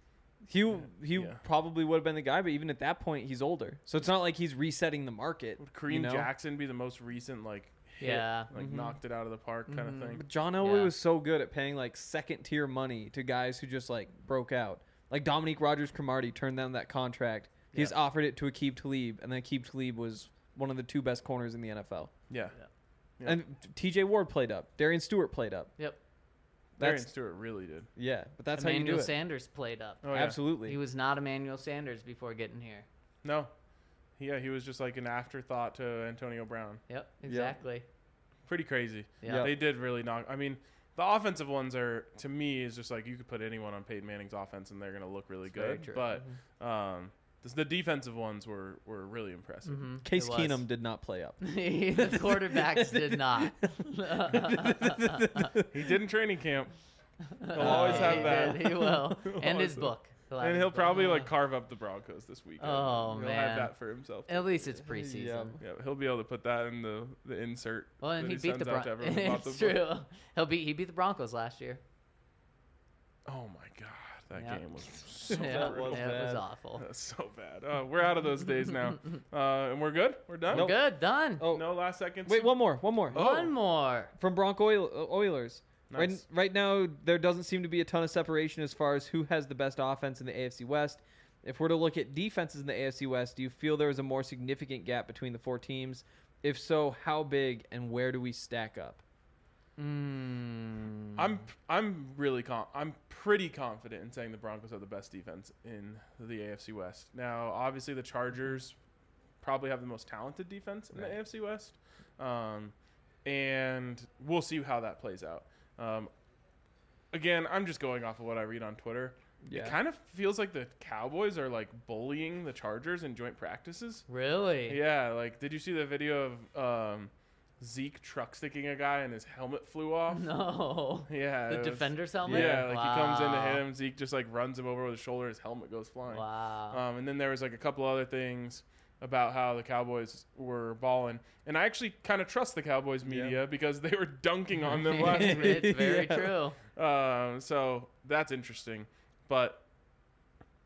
He Yeah. probably would have been the guy, but even at that point, he's older. So it's not like he's resetting the market. Would Kareem you know? Jackson be the most recent like hit, Yeah. like knocked it out of the park kind of thing? But John Elway Yeah. was so good at paying like second tier money to guys who just like broke out. Like Dominique Rodgers-Cromartie turned down that contract. He just Yeah. offered it to Aqib Talib, and then Aqib Talib was one of the 2 best corners in the NFL. Yeah. Yeah. Yeah. And T.J. Ward played up. Darian Stewart played up. Yep. Darian That's Stewart really did. yeah, but that's how you Emmanuel do it. Sanders played up. Oh, yeah. Absolutely. He was not Emmanuel Sanders before getting here. No. Yeah, he was just like an afterthought to Antonio Brown. Yep, exactly. Pretty crazy. Yeah. They did really knock. I mean, the offensive ones are, to me, is just like you could put anyone on Peyton Manning's offense and they're going to look really very good. true. But the defensive ones were really impressive. Mhm. Case It was. Keenum did not play up. The quarterbacks did not. He did in training camp. He'll always have He that. did, he will. And his Always. book. have And his he'll book. probably like carve up the Broncos this weekend. Oh, he'll man. have that for himself. At least it's preseason. Yeah, he'll be able to put that in the insert. Well, and that he beat the sends out to Broncos. everyone about the It's book. true. He beat the Broncos last year. Oh my god, that Yeah. game was so Yeah, was it was bad. awful. That's so bad. We're out of those days now, and we're good. We're done. We're good. Done. Oh, No last seconds. wait, one more. Oh. One more. From Bronco Oilers. Nice. Right now, there doesn't seem to be a ton of separation as far as who has the best offense in the AFC West. If we're to look at defenses in the AFC West, do you feel there is a more significant gap between the 4 teams? If so, how big and where do we stack up? I'm pretty confident in saying the Broncos have the best defense in the AFC West. Now, obviously, the Chargers probably have the most talented defense in the Right. AFC West, and we'll see how that plays out. Again, I'm just going off of what I read on Twitter. Yeah. It kind of feels like the Cowboys are like bullying the Chargers in joint practices. Really? Yeah, like did you see the video of Zeke truck sticking a guy and his helmet flew off? No. Yeah, The it was- defender's helmet? Yeah, like he comes into Wow. him, Zeke just like runs him over with his shoulder, his helmet goes flying. Wow. And then there was like a couple other things about how the Cowboys were balling, and I actually kind of trust the Cowboys media because they were dunking on them last week. It's very Yeah. true. So that's interesting. But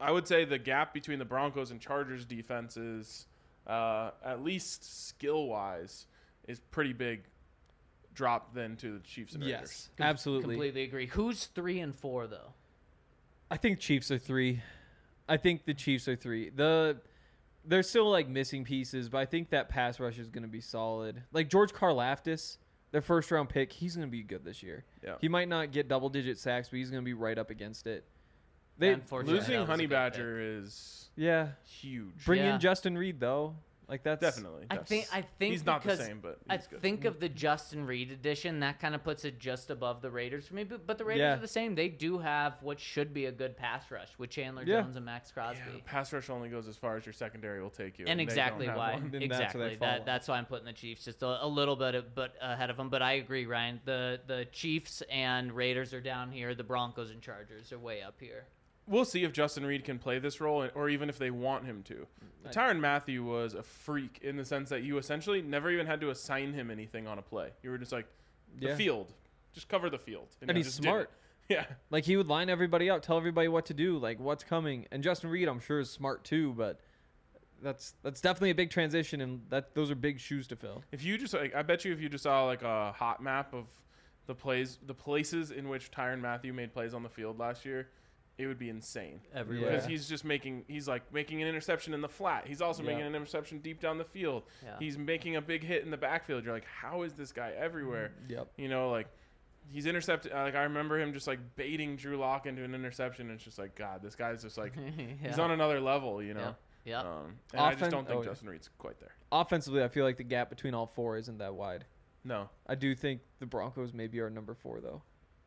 I would say the gap between the Broncos and Chargers defenses, at least skill-wise, is pretty big drop then to the Chiefs and Raiders. Yes, absolutely. Completely agree. Who's 3 and 4 though? I think Chiefs are 3. I think the Chiefs are 3. They're still like missing pieces, but I think that pass rush is going to be solid. Like George Karlaftis, their first round pick, he's going to be good this year. Yeah. He might not get double-digit sacks, but he's going to be right up against it. Unfortunately, Losing that was a Honey good Badger is Yeah. huge. Bring Yeah. in Justin Reed though. Like that's Definitely. I think he's not the because same, but I he's good. think of the Justin Reed edition that kind of puts it just above the Raiders for me. But the Raiders Yeah. are the same. They do have what should be a good pass rush with Chandler Yeah. Jones and Max Crosby. Yeah, pass rush only goes as far as your secondary will take you. And they exactly don't have why. one. Then that's where they Exactly. fall. That's why I'm putting the Chiefs just a little bit but ahead of them. But I agree, Ryan. The Chiefs and Raiders are down here. The Broncos and Chargers are way up here. We'll see if Justin Reed can play this role, or even if they want him to. Tyrann Mathieu was a freak in the sense that you essentially never even had to assign him anything on a play. You were just like, the Yeah. field. Just cover the field. And you he's just did smart. it. Yeah. like he would line everybody up, tell everybody what to do, like what's coming. And Justin Reed, I'm sure, is smart too, but that's definitely a big transition, and those are big shoes to fill. If you just, like, I bet you if you just saw like a hot map of the places in which Tyrann Mathieu made plays on the field last year, it would be insane. Everywhere. Because he's making an interception in the flat. He's also making Yeah. an interception deep down the field. Yeah. He's making a big hit in the backfield. You're like, how is this guy everywhere? Yep. You know, like he's intercepted. Like I remember him just like baiting Drew Lock into an interception. And it's just like, God, this guy's just like he's on another level. You know. Yeah. And I just don't think yeah. Justin Reed's quite there. Offensively, I feel like the gap between all four isn't that wide. No, I do think the Broncos maybe are number 4 though.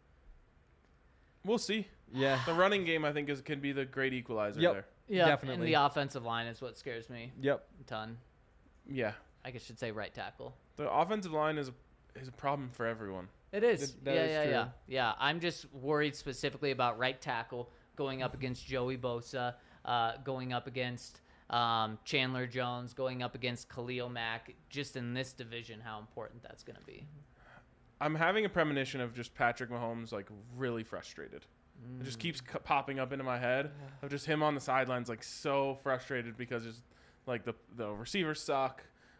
we'll see. Yeah. The running game, I think, can be the great equalizer Yep. there. Yeah. Definitely. And the offensive line is what scares me Yep. a ton. Yeah, I guess should say right tackle. the offensive line is a problem for everyone. It is. That yeah, is yeah, true. yeah. Yeah. I'm just worried specifically about right tackle going up against Joey Bosa, going up against Chandler Jones, going up against Khalil Mack. Just in this division, how important that's going to be. I'm having a premonition of just Patrick Mahomes like really frustrated. It just keeps popping up into my head of just him on the sidelines like so frustrated because it's like the receivers suck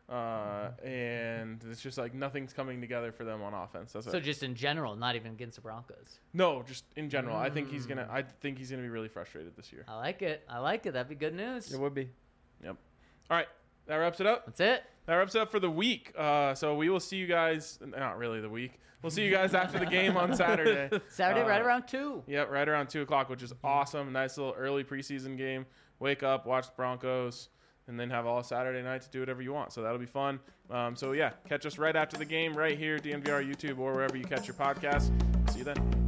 and it's just like nothing's coming together for them on offense. That's So it. just in general, not even against the Broncos. No, just in general. I think he's gonna be really frustrated this year. I like it. That'd be good news. It would be. Yep. All right, that wraps it up. That's it. That wraps it up for the week. So we will see you guys. Not really the week. We'll see you guys after the game on Saturday. Saturday, right around 2. Yep, right around 2:00, which is awesome. Nice little early preseason game. Wake up, watch the Broncos, and then have all Saturday night to do whatever you want. So that'll be fun. So yeah, catch us right after the game, right here, DNVR YouTube, or wherever you catch your podcast. See you then.